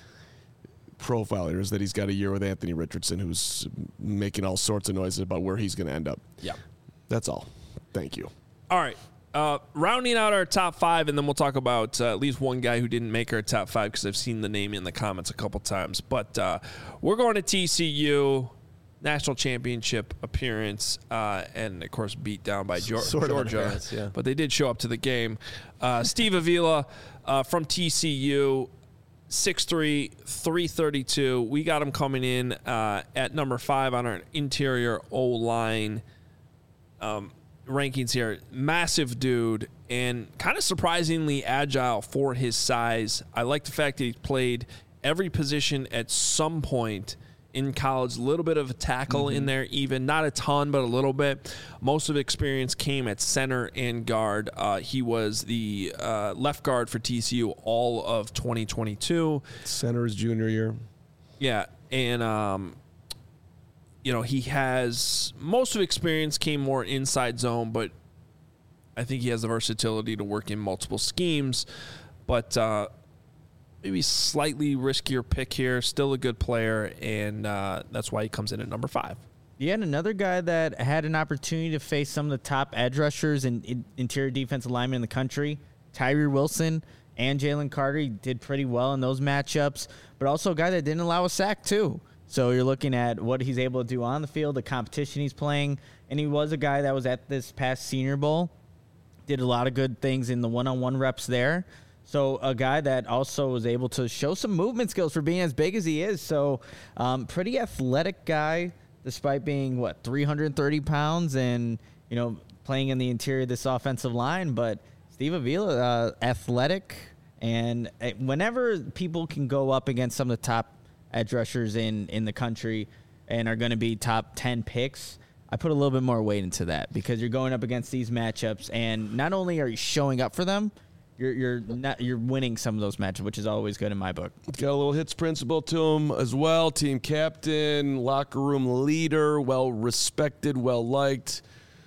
profile here is that he's got a year with Anthony Richardson, who's making all sorts of noises about where he's going to end up. Yeah. That's all. Thank you. All right. Uh, rounding out our top five, and then we'll talk about uh, at least one guy who didn't make our top five because I've seen the name in the comments a couple times. But uh, we're going to T C U, national championship appearance, uh, and, of course, beat down by Georgia. Sort of appearance, yeah. But they did show up to the game. Uh, Steve Avila uh, from T C U, six three, three thirty-two. We got him coming in uh, at number five on our interior O-line um, rankings here. Massive dude and kind of surprisingly agile for his size. I like the fact that he played every position at some point in college. A little bit of a tackle mm-hmm. in there even. Not a ton, but a little bit. Most of the experience came at center and guard. Uh, he was the uh, left guard for T C U all of twenty twenty-two. Center his junior year. Yeah, and um, you know, he has most of experience came more inside zone, but I think he has the versatility to work in multiple schemes. But uh, maybe slightly riskier pick here. Still a good player, and uh, that's why he comes in at number five. Yeah, and another guy that had an opportunity to face some of the top edge rushers and in, interior defensive linemen in the country, Tyree Wilson and Jalen Carter. He did pretty well in those matchups, but also a guy that didn't allow a sack too. So you're looking at what he's able to do on the field, the competition he's playing, and he was a guy that was at this past Senior Bowl, did a lot of good things in the one-on-one reps there. So a guy that also was able to show some movement skills for being as big as he is. So um, pretty athletic guy, despite being, what, three hundred thirty pounds and, you know, playing in the interior of this offensive line. But Steve Avila, uh, athletic, and uh, whenever people can go up against some of the top edge rushers in, in the country and are going to be top ten picks, I put a little bit more weight into that because you're going up against these matchups, and not only are you showing up for them, You're you're not you're winning some of those matches, which is always good in my book. Got a little hits principle to him as well. Team captain, locker room leader, well respected, well liked.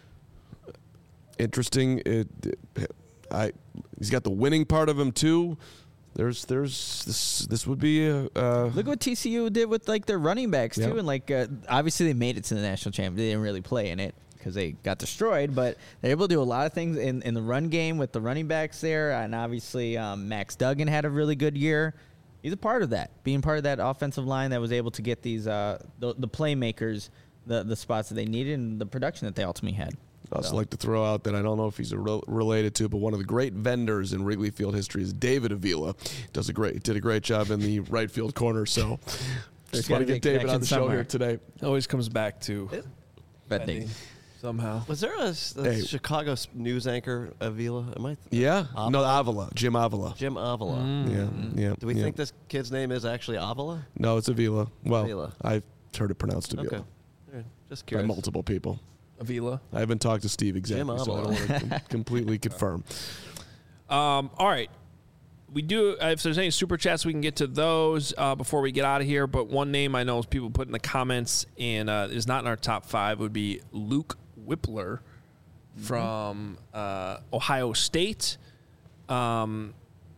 Interesting. It, it, I he's got the winning part of him too. There's there's this this would be a uh, look what T C U did with like their running backs too, Yep. and like uh, obviously they made it to the national championship. They didn't really play in it because they got destroyed, but they're able to do a lot of things in, in the run game with the running backs there. And obviously um, Max Duggan had a really good year. He's a part of that, being part of that offensive line that was able to get these uh, the, the playmakers the, the spots that they needed and the production that they ultimately had. I'd also So. like to throw out that I don't know if he's a rel- related to, but one of the great vendors in Wrigley Field history is David Avila. Does a great did a great job in the right field corner. So just want to gotta be a get David on connection the show somewhere. here today. It always comes back to Betting. betting somehow. Was there a, s- a Hey. Chicago s- news anchor, Avila? Am I? Yeah, Avila? no Avila, Jim Avila. Jim Avila. Yeah, yeah. Do we yeah. think this kid's name is actually Avila? No, it's Avila. Well, Avila. I've heard it pronounced Avila Okay. All right. Just by curious. multiple people. Avila. I haven't talked to Steve exactly, so I don't Avila. want to com- completely confirm. Um, all right. We do, uh, if there's any super chats, we can get to those uh, before we get out of here. But one name I know is people put in the comments and uh, is not in our top five would be Luke Whippler from uh, Ohio State. Um,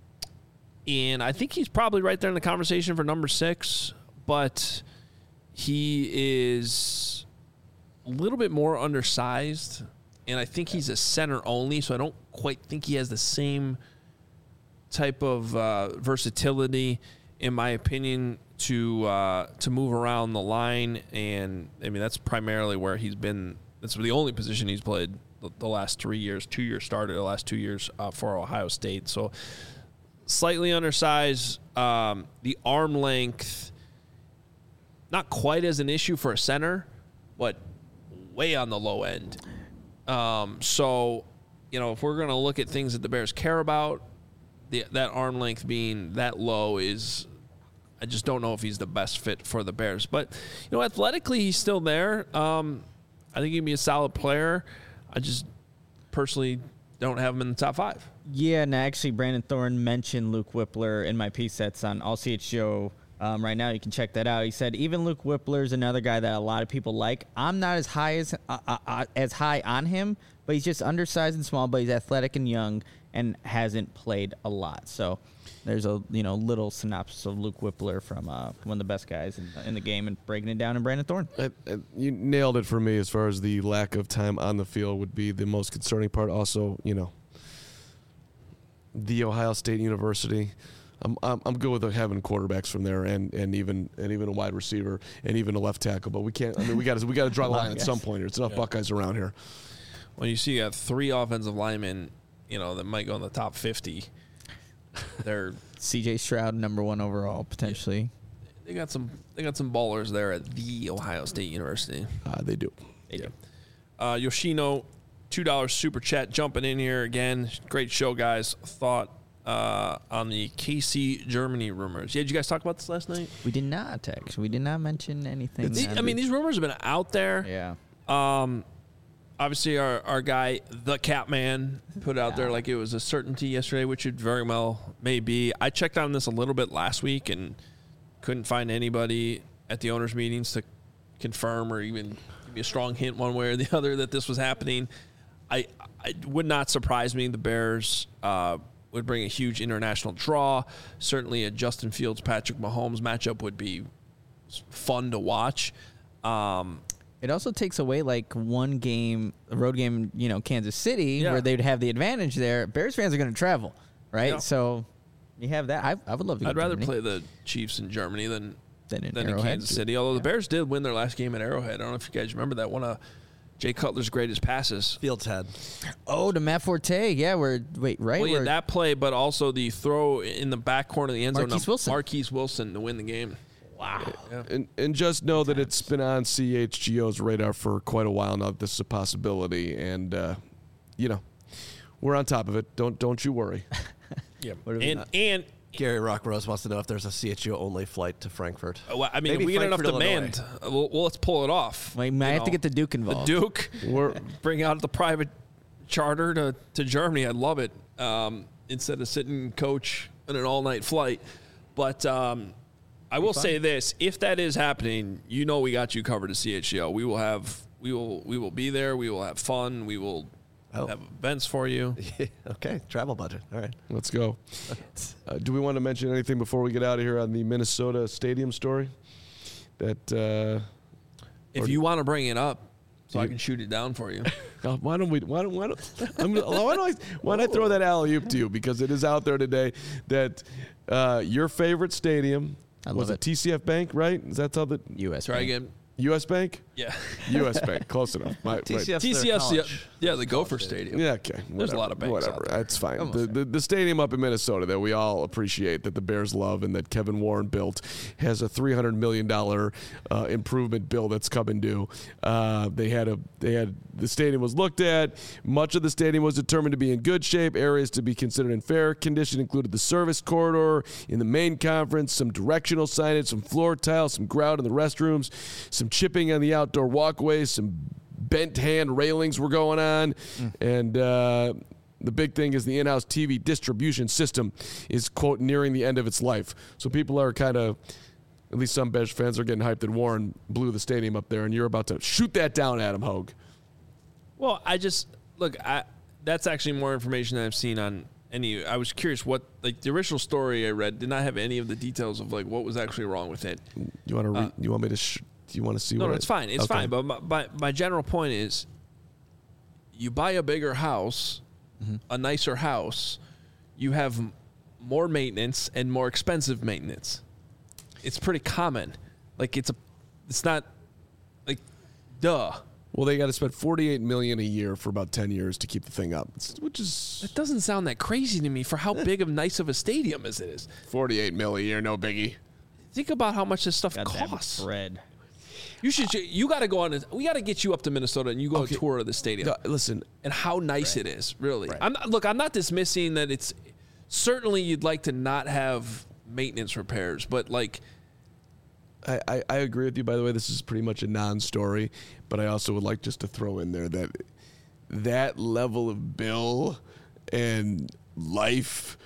and I think he's probably right there in the conversation for number six, but he is a little bit more undersized, and I think he's a center only, so I don't quite think he has the same type of uh, versatility, in my opinion, to uh, to move around the line. And I mean, that's primarily where he's been. That's the only position he's played the, the last three years, two years started the last two years uh, for Ohio State. So slightly undersized. Um, the arm length, not quite as an issue for a center, but way on the low end. Um, so, you know, if we're going to look at things that the Bears care about, the, that arm length being that low is, I just don't know if he's the best fit for the Bears. But, you know, athletically, he's still there. Um, I think he'd be a solid player. I just personally don't have him in the top five. Yeah, and actually, Brandon Thorne mentioned Luke Whippler in my piece that's on All C H G O um, right now. You can check that out. He said even Luke Whippler is another guy that a lot of people like. I'm not as high as uh, uh, uh, as high on him, but he's just undersized and small. But he's athletic and young and hasn't played a lot. So there's a you know little synopsis of Luke Whippler from uh, one of the best guys in, in the game and breaking it down in Brandon Thorne. Uh, uh, you nailed it for me as far as the lack of time on the field would be the most concerning part. Also, you know, the Ohio State University. I'm I'm, I'm good with having quarterbacks from there and, and even and even a wide receiver and even a left tackle. But we can't. I mean, we got to we got to draw the line at some point here. It's enough Yeah. Buckeyes around here. When you see you have three offensive linemen, you know, that might go in the top fifty, they're C J Stroud, number one overall, potentially. they got some they got some ballers there at the Ohio State University. Uh, they do. They do. Uh, Yoshino, two dollars super chat jumping in here again. Great show, guys. Thought uh, on the K C Germany rumors. Yeah, did you guys talk about this last night? We did not, actually. We did not mention anything. The- that- I mean, these rumors have been out there. yeah. Um, obviously, our, our guy, the Catman, put it out there like it was a certainty yesterday, which it very well may be. I checked on this a little bit last week and couldn't find anybody at the owners' meetings to confirm or even give me a strong hint one way or the other that this was happening. I, I would not surprise me. The Bears uh, would bring a huge international draw. Certainly, a Justin Fields Patrick Mahomes matchup would be fun to watch. Um, It also takes away like one game, a road game, you know, Kansas City, Yeah. where they'd have the advantage there. Bears fans are going to travel, right? Yeah. So you have that. I, I would love to. Go I'd to rather Germany play the Chiefs in Germany than than in, than in Arrowhead. Kansas City. Although the Bears did win their last game at Arrowhead. I don't know if you guys remember that. One of Jay Cutler's greatest passes. Fields had. Oh, to Matt Forte. Yeah, we're wait right. Well, yeah, Where- that play, but also the throw in the back corner of the end zone. Marquise of Wilson. Marquise Wilson to win the game. wow. Yeah. And and just know that it's been on C H G O's radar for quite a while now. That this is a possibility, and uh, you know, we're on top of it. Don't don't you worry. Yeah. What do we And got? and Gary Rockrose wants to know if there's a C H G O only flight to Frankfurt. uh, well, I mean, Maybe if we get enough Frankfurt, demand, uh, well, well, let's pull it off. Wait, might You have to know, get the Duke the involved. Duke. We're Bring out the private charter to, to Germany. I'd love it. Um, instead of sitting coach on an all night flight. But um, I will say this: if that is happening, you know we got you covered at C H G O. We will have we will we will be there. We will have fun. We will Oh. have events for you. Okay, travel budget. All right. let's go. Uh, do we want to mention anything before we get out of here on the Minnesota Stadium story? That uh, If Or- you want to bring it up, so I You- can shoot it down for you. uh, why don't we? Why don't? Why don't? I'm, gonna- why don't I? Why don't I throw that alley oop to you because it is out there today that uh, your favorite stadium I was love it it. T C F Bank, right? Is that how the U S. Try Bank. again. U S Bank? Yeah. U S Bank, close enough. My, right. T C F 's T C their F's the, college. yeah, the Gopher Stadium. Yeah, okay. There's a Whatever, lot of banks Whatever. out there. That's fine. Almost The, there. the the stadium up in Minnesota that we all appreciate that the Bears love and that Kevin Warren built has a three hundred million dollars uh, improvement bill that's coming due. Uh, they had a they had the stadium was looked at. Much of the stadium was determined to be in good shape. Areas to be considered in fair condition included the service corridor in the main conference, some directional signage, some floor tiles, some grout in the restrooms, some chipping on the outdoor walkways, some bent hand railings were going on, and uh, the big thing is the in-house T V distribution system is, quote, nearing the end of its life. So people are kind of, at least some Bears fans are getting hyped that Warren blew the stadium up there, and you're about to shoot that down, Adam Hogue. Well, I just look. I that's actually more information than I've seen on any. I was curious what like the original story I read did not have any of the details of like what was actually wrong with it. You want to? Re- Uh, you want me to? Sh- do you want to see? No, what no, I- it's fine. It's Okay. fine. But my, my my general point is, you buy a bigger house, a nicer house, you have m- more maintenance and more expensive maintenance. It's pretty common. Like it's a, it's not, like, duh. Well, they got to spend forty-eight million dollars a year for about ten years to keep the thing up, It's- which is It doesn't sound that crazy to me for how big of nice of a stadium as it is. forty-eight mil a year, no biggie. Think about how much this stuff Goddamn costs. bread. You should. You got to go on. A, we got to get you up to Minnesota and you go Okay. a tour of the stadium No, listen, and how nice it is. Really. I'm not, look. I'm not dismissing that. It's certainly you'd like to not have maintenance repairs, but like I, I, I agree with you. By the way, this is pretty much a non-story, but I also would like just to throw in there that that level of bill and life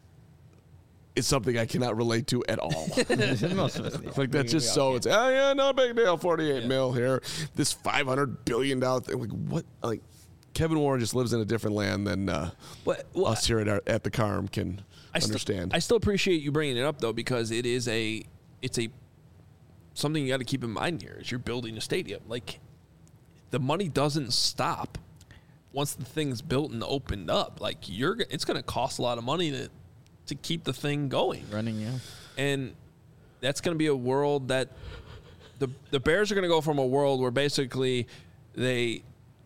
is something I cannot relate to at all. Most of us. yeah. Like that's We- just we so all it's oh yeah, no big deal, forty-eight mil here. This five hundred billion dollar thing. Like what? Like Kevin Warren just lives in a different land than uh, But, well, us here at our, at the Carm can I still- understand. I still appreciate you bringing it up though because it is a it's a something you got to keep in mind here is you're building a stadium. Like the money doesn't stop once the thing's built and opened up. Like you're g- it's going to cost a lot of money to to keep the thing going. running, yeah. And that's going to be a world that the the Bears are going to go from a world where basically they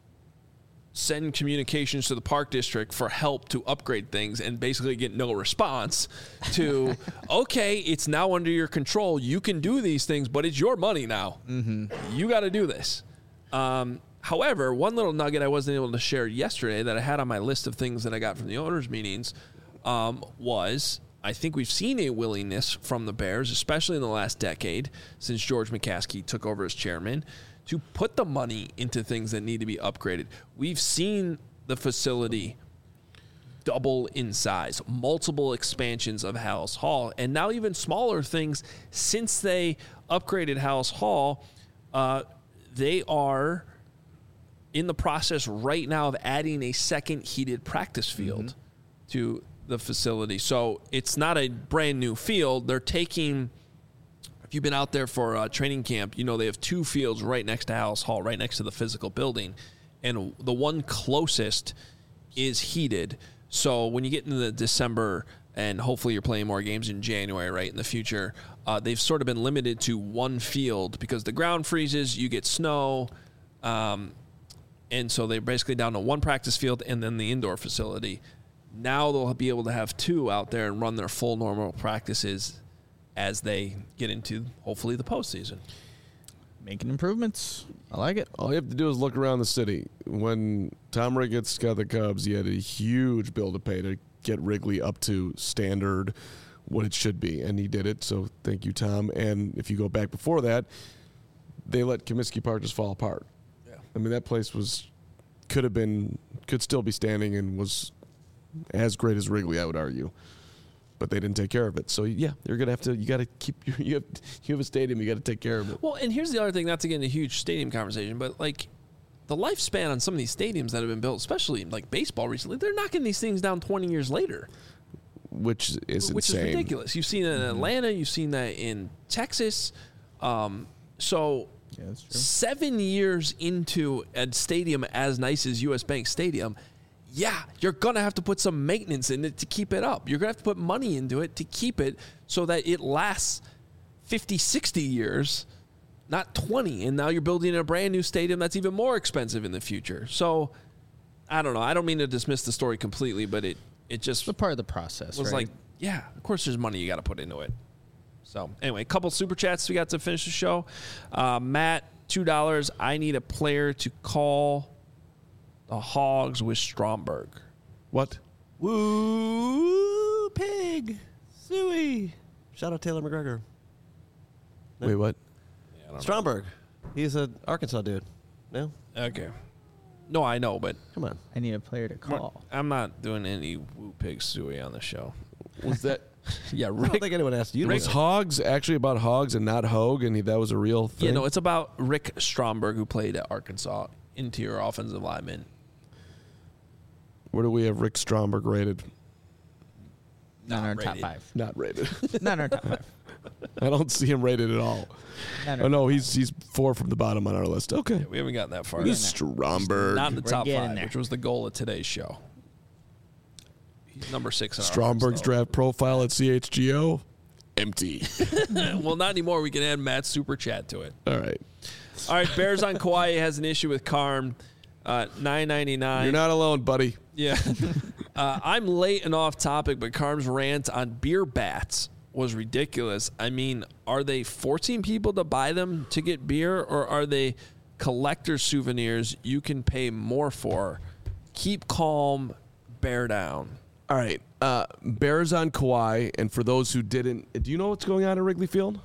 send communications to the park district for help to upgrade things and basically get no response to okay, it's now under your control, you can do these things, but it's your money now. Mm-hmm. You got to do this. Um, however, one little nugget I wasn't able to share yesterday that I had on my list of things that I got from the owners meetings um, was I think we've seen a willingness from the Bears, especially in the last decade since George McCaskey took over as chairman, to put the money into things that need to be upgraded. We've seen the facility double in size, multiple expansions of Hallis Hall, and now even smaller things since they upgraded Hallis Hall. Uh, they are in the process right now of adding a second heated practice field mm-hmm. to the facility. So it's not a brand new field. They're taking if you've been out there for uh, training camp, you know they have two fields right next to Alice Hall, right next to the physical building, and the one closest is heated. So when you get into the December, and hopefully you're playing more games in January, right, in the future, uh, they've sort of been limited to one field because the ground freezes, you get snow, um, and so they're basically down to one practice field and then the indoor facility. Now they'll be able to have two out there and run their full normal practices as they get into, hopefully, the postseason. Making improvements. I like it. All you have to do is look around the city. When Tom Ricketts got the Cubs, he had a huge bill to pay to get Wrigley up to standard, what it should be, and he did it, so thank you, Tom. And if you go back before that, they let Comiskey Park just fall apart. Yeah. I mean, that place was could have been, could still be standing and was as great as Wrigley, I would argue. But they didn't take care of it. So, yeah, you're going to have to, you got to keep, you have, you have a stadium, you got to take care of it. Well, and here's the other thing, not to get into a huge stadium conversation, but, like, the lifespan on some of these stadiums that have been built, especially, like, baseball recently, they're knocking these things down twenty years later. Which is Which insane. is ridiculous. You've seen it in Atlanta. You've seen that in Texas. Um, so Yeah, that's true. seven years into a stadium as nice as U S. Bank Stadium, yeah, you're going to have to put some maintenance in it to keep it up. You're going to have to put money into it to keep it so that it lasts fifty, sixty years, not twenty. And now you're building a brand new stadium that's even more expensive in the future. So I don't know. I don't mean to dismiss the story completely, but it, it just It's a part of the process, was right? like, yeah, of course there's money you got to put into it. So anyway, a couple super chats we got to finish the show. Uh, Matt, two dollars. I need a player to call the Hogs with Stromberg. What? Woo pig, Suey. Shout out Taylor McGregor. No. Wait, what? Yeah, I don't Stromberg. He's an Arkansas dude. No, know. Okay. No, I know, but come on. I need a player to call. I'm not doing any woo pig suey on the show. Was that... Yeah, I don't Rick. think anyone asked you. to Was do that. Hogs actually about Hogs and not Hogue, and he, that was a real thing? Yeah, no, it's about Rick Stromberg, who played at Arkansas, interior offensive lineman. Where do we have Rick Stromberg rated? Not in our Not top rated. five. Not rated. Not in our top five. I don't see him rated at all. Not in Oh, our no, top he's he's four from the bottom on our list. Okay. Yeah, we haven't gotten that far. This is Stromberg. Not in the We're top getting five, there. which was the goal of today's show. He's number six. In our Stromberg's offense, draft profile at C H G O, empty. though. Well, not anymore. We can add Matt's super chat to it. All right. All right, Bears on Kauai has an issue with Carm. Uh, nine ninety-nine. You're not alone, buddy. Yeah. uh, I'm late and off topic, but Carm's rant on beer bats was ridiculous. I mean, are they forcing people to buy them to get beer, or are they collector souvenirs you can pay more for? Keep calm, bear down. All right. Uh, Bears on Kauai, and for those who didn't, do you know what's going on at Wrigley Field?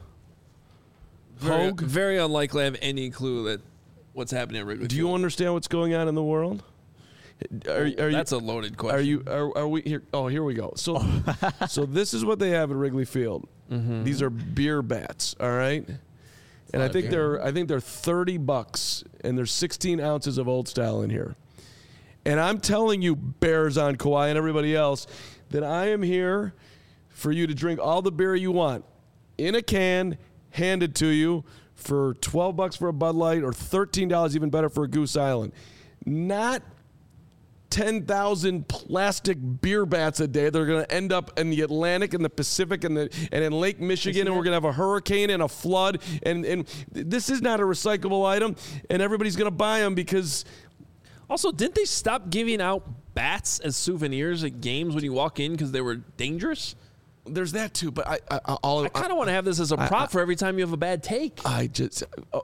Very, Hogue? very unlikely I have any clue that what's happening at Wrigley Do you Field. understand what's going on in the world? Are, are you, That's a loaded question. Are you? Are, are we here? Oh, here we go. So, so this is what they have at Wrigley Field. Mm-hmm. These are beer bats. All right, and I think they're I think they're thirty bucks, and there's sixteen ounces of old style in here. And I'm telling you, Bears on Kauai and everybody else, that I am here for you to drink all the beer you want in a can, handed to you for twelve bucks for a Bud Light or thirteen dollars, even better, for a Goose Island. Not ten thousand plastic beer bats a day. They're going to end up in the Atlantic and the Pacific and the and in Lake Michigan, and we're going to have a hurricane and a flood. And, and this is not a recyclable item, and everybody's going to buy them because... Also, didn't they stop giving out bats as souvenirs at games when you walk in because they were dangerous? There's that too, but I I, I'll, I kind of want to have this as a prop I- for every time you have a bad take. I just oh.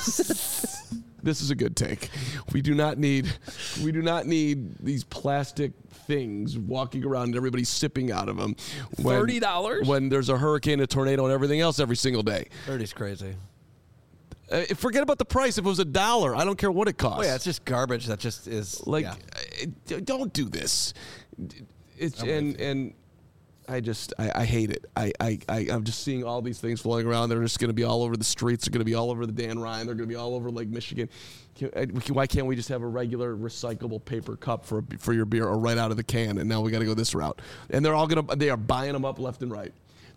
This is a good take. We do not need we do not need these plastic things walking around and everybody sipping out of them. when- thirty dollars? when there's a hurricane, a tornado, and everything else every single day. thirty's crazy. Uh, forget about the price. If it was a dollar, I don't care what it costs. Oh yeah, it's just garbage. That just is like yeah. uh, d- don't do this. It's I'm and with you. and I just I, I hate it. I, I I I'm just seeing all these things floating around. They're just going to be all over the streets. They're going to be all over the Dan Ryan. They're going to be all over Lake Michigan. Can, uh, we can- why can't we just have a regular recyclable paper cup for for your beer, or right out of the can? And now we got to go this route. And they're all gonna they are buying them up left and right.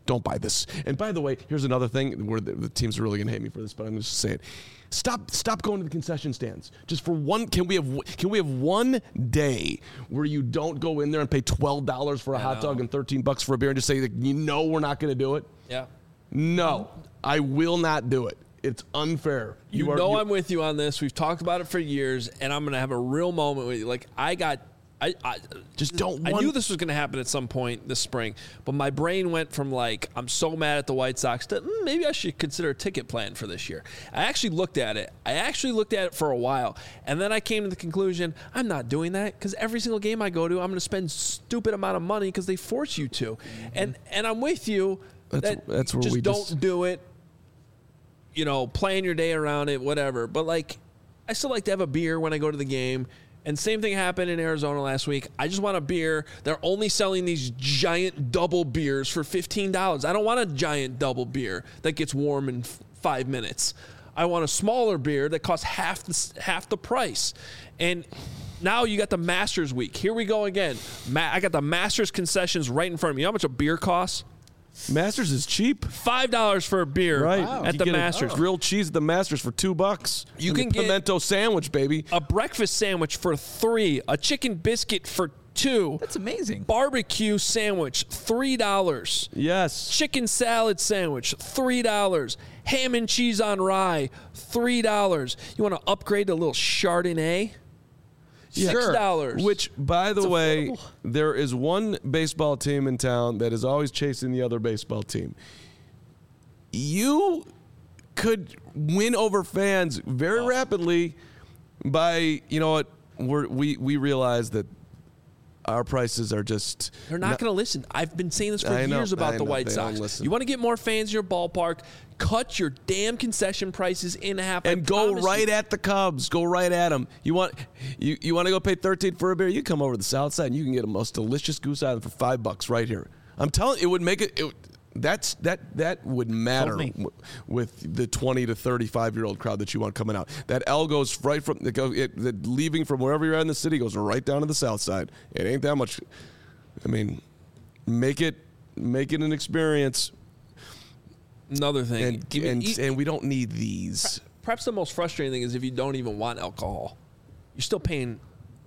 Don't buy this. And by the way, here's another thing where the, the teams are really going to hate me for this, but I'm just saying, stop, stop going to the concession stands. Just for one, can we have, can we have one day where you don't go in there and pay twelve dollars for a I hot know. dog and thirteen bucks for a beer and just say that you know we're not going to do it? Yeah. No, I will not do it. It's unfair. You, are, know you- I'm with you on this. We've talked about it for years, and I'm going to have a real moment with you. Like, I got... I, I Just don't I want- knew this was going to happen at some point this spring, but my brain went from like, I'm so mad at the White Sox to mm, maybe I should consider a ticket plan for this year. I actually looked at it. I actually looked at it for a while, and then I came to the conclusion I'm not doing that because every single game I go to, I'm going to spend stupid amount of money because they force you to, and and I'm with you. That's- that that's where just we don't just- do it. You know, plan your day around it, whatever. But like, I still like to have a beer when I go to the game. And same thing happened in Arizona last week. I just want a beer. They're only selling these giant double beers for fifteen dollars. I don't want a giant double beer that gets warm in f- five minutes. I want a smaller beer that costs half the, s- half the price. And now you got the Masters week. Here we go again. Ma- I got the Masters concessions right in front of me. You know how much a beer costs? Masters is cheap. five dollars for a beer Right. at You the get a Masters. grilled cheese at the Masters for two bucks. You And can the get- pimento sandwich, baby. A breakfast sandwich for three. A chicken biscuit for two. That's amazing. Barbecue sandwich, three dollars. Yes. Chicken salad sandwich, three dollars. Ham and cheese on rye, three dollars. You want to upgrade to a little Chardonnay? six dollars. Which, by the way, affordable. there is one baseball team in town that is always chasing the other baseball team. You could win over fans very Oh. rapidly by, you know what, we're, we we realize that our prices are just They're not going to listen. I've been saying this for I know, years about I the know, White they don't Sox. listen. You want to get more fans in your ballpark? Cut your damn concession prices in half. I and go promise right you. at the Cubs. Go right at them. You want you, you want to go pay thirteen for a beer? You come over to the South Side and you can get a most delicious Goose Island for five bucks right here. I'm telling you, it would make it. it that's that that would matter me. w- with the twenty to thirty-five year old crowd that you want coming out. That L goes right from it goes it, the, leaving from wherever you're at in the city goes right down to the South Side. It ain't that much. I mean, make it make it an experience. Another thing. And Even- and, e- and we don't need these. Perhaps the most frustrating thing is if you don't even want alcohol, you're still paying.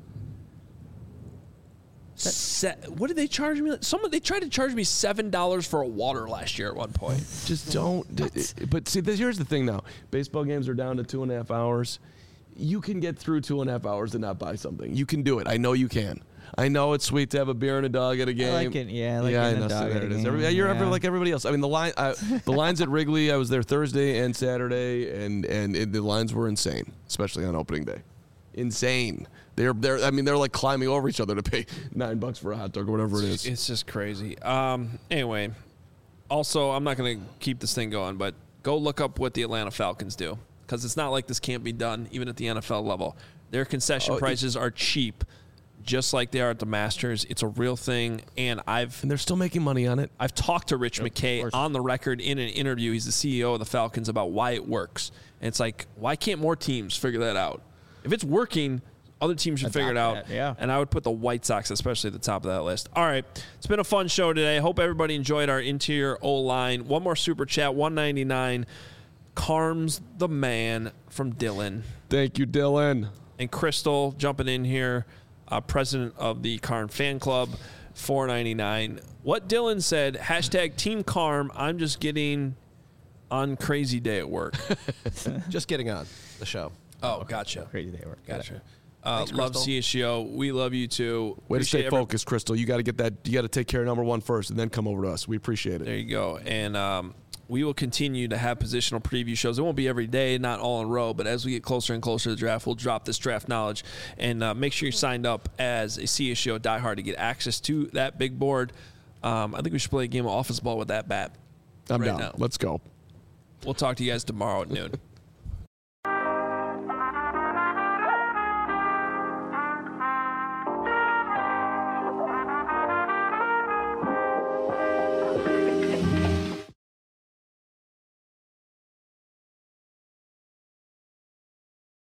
Se- what did they charge me? Someone they tried to charge me seven dollars for a water last year at one point. Just don't. d- d- But see, this, here's the thing now. Baseball games are down to two and a half hours. You can get through two and a half hours and not buy something. You can do it. I know you can. I know it's sweet to have a beer and a dog at a game. like it, yeah, I like yeah, it I and a know. so dog there at a it is. game, Every- you're ever yeah. like everybody else. I mean, the line, I, the lines at Wrigley. I was there Thursday and Saturday, and and it, the lines were insane, especially on opening day. Insane. They're they're. I mean, they're like climbing over each other to pay nine bucks for a hot dog or whatever it is. It's just crazy. Um, anyway, also, I'm not going to keep this thing going, but go look up what the Atlanta Falcons do because it's not like this can't be done even at the N F L level. Their concession Oh, it- prices are cheap, just like they are at the Masters. It's a real thing, and I've And they're still making money on it. I've talked to Rich McKay course. on the record in an interview. He's the C E O of the Falcons about why it works. And it's like, why can't more teams figure that out? If it's working, other teams should figure it out. Adopt that, yeah. And I would put the White Sox especially at the top of that list. All right. It's been a fun show today. Hope everybody enjoyed our interior O-line. One more super chat, one ninety-nine. Carms the man from Dylan. Thank you, Dylan. And Crystal jumping in here, uh, president of the Carm fan club, four ninety-nine. What Dylan said, hashtag Team Carm, I'm just getting on crazy day at work. Just getting on the show. Oh, gotcha. Crazy day at work. Gotcha. Uh, Thanks, love Crystal. C S G O. We love you too. Way to Appreciate stay every- focused, Crystal. You got to get that. You got to take care of number one first, and then come over to us. We appreciate There it. you go. And um, we will continue to have positional preview shows. It won't be every day, not all in a row, but as we get closer and closer to the draft, we'll drop this draft knowledge. And uh, make sure you're signed up as a C S G O diehard to get access to that big board. Um, I think we should play a game of office ball with that bat. I'm right down. now. Let's go. We'll talk to you guys tomorrow at noon.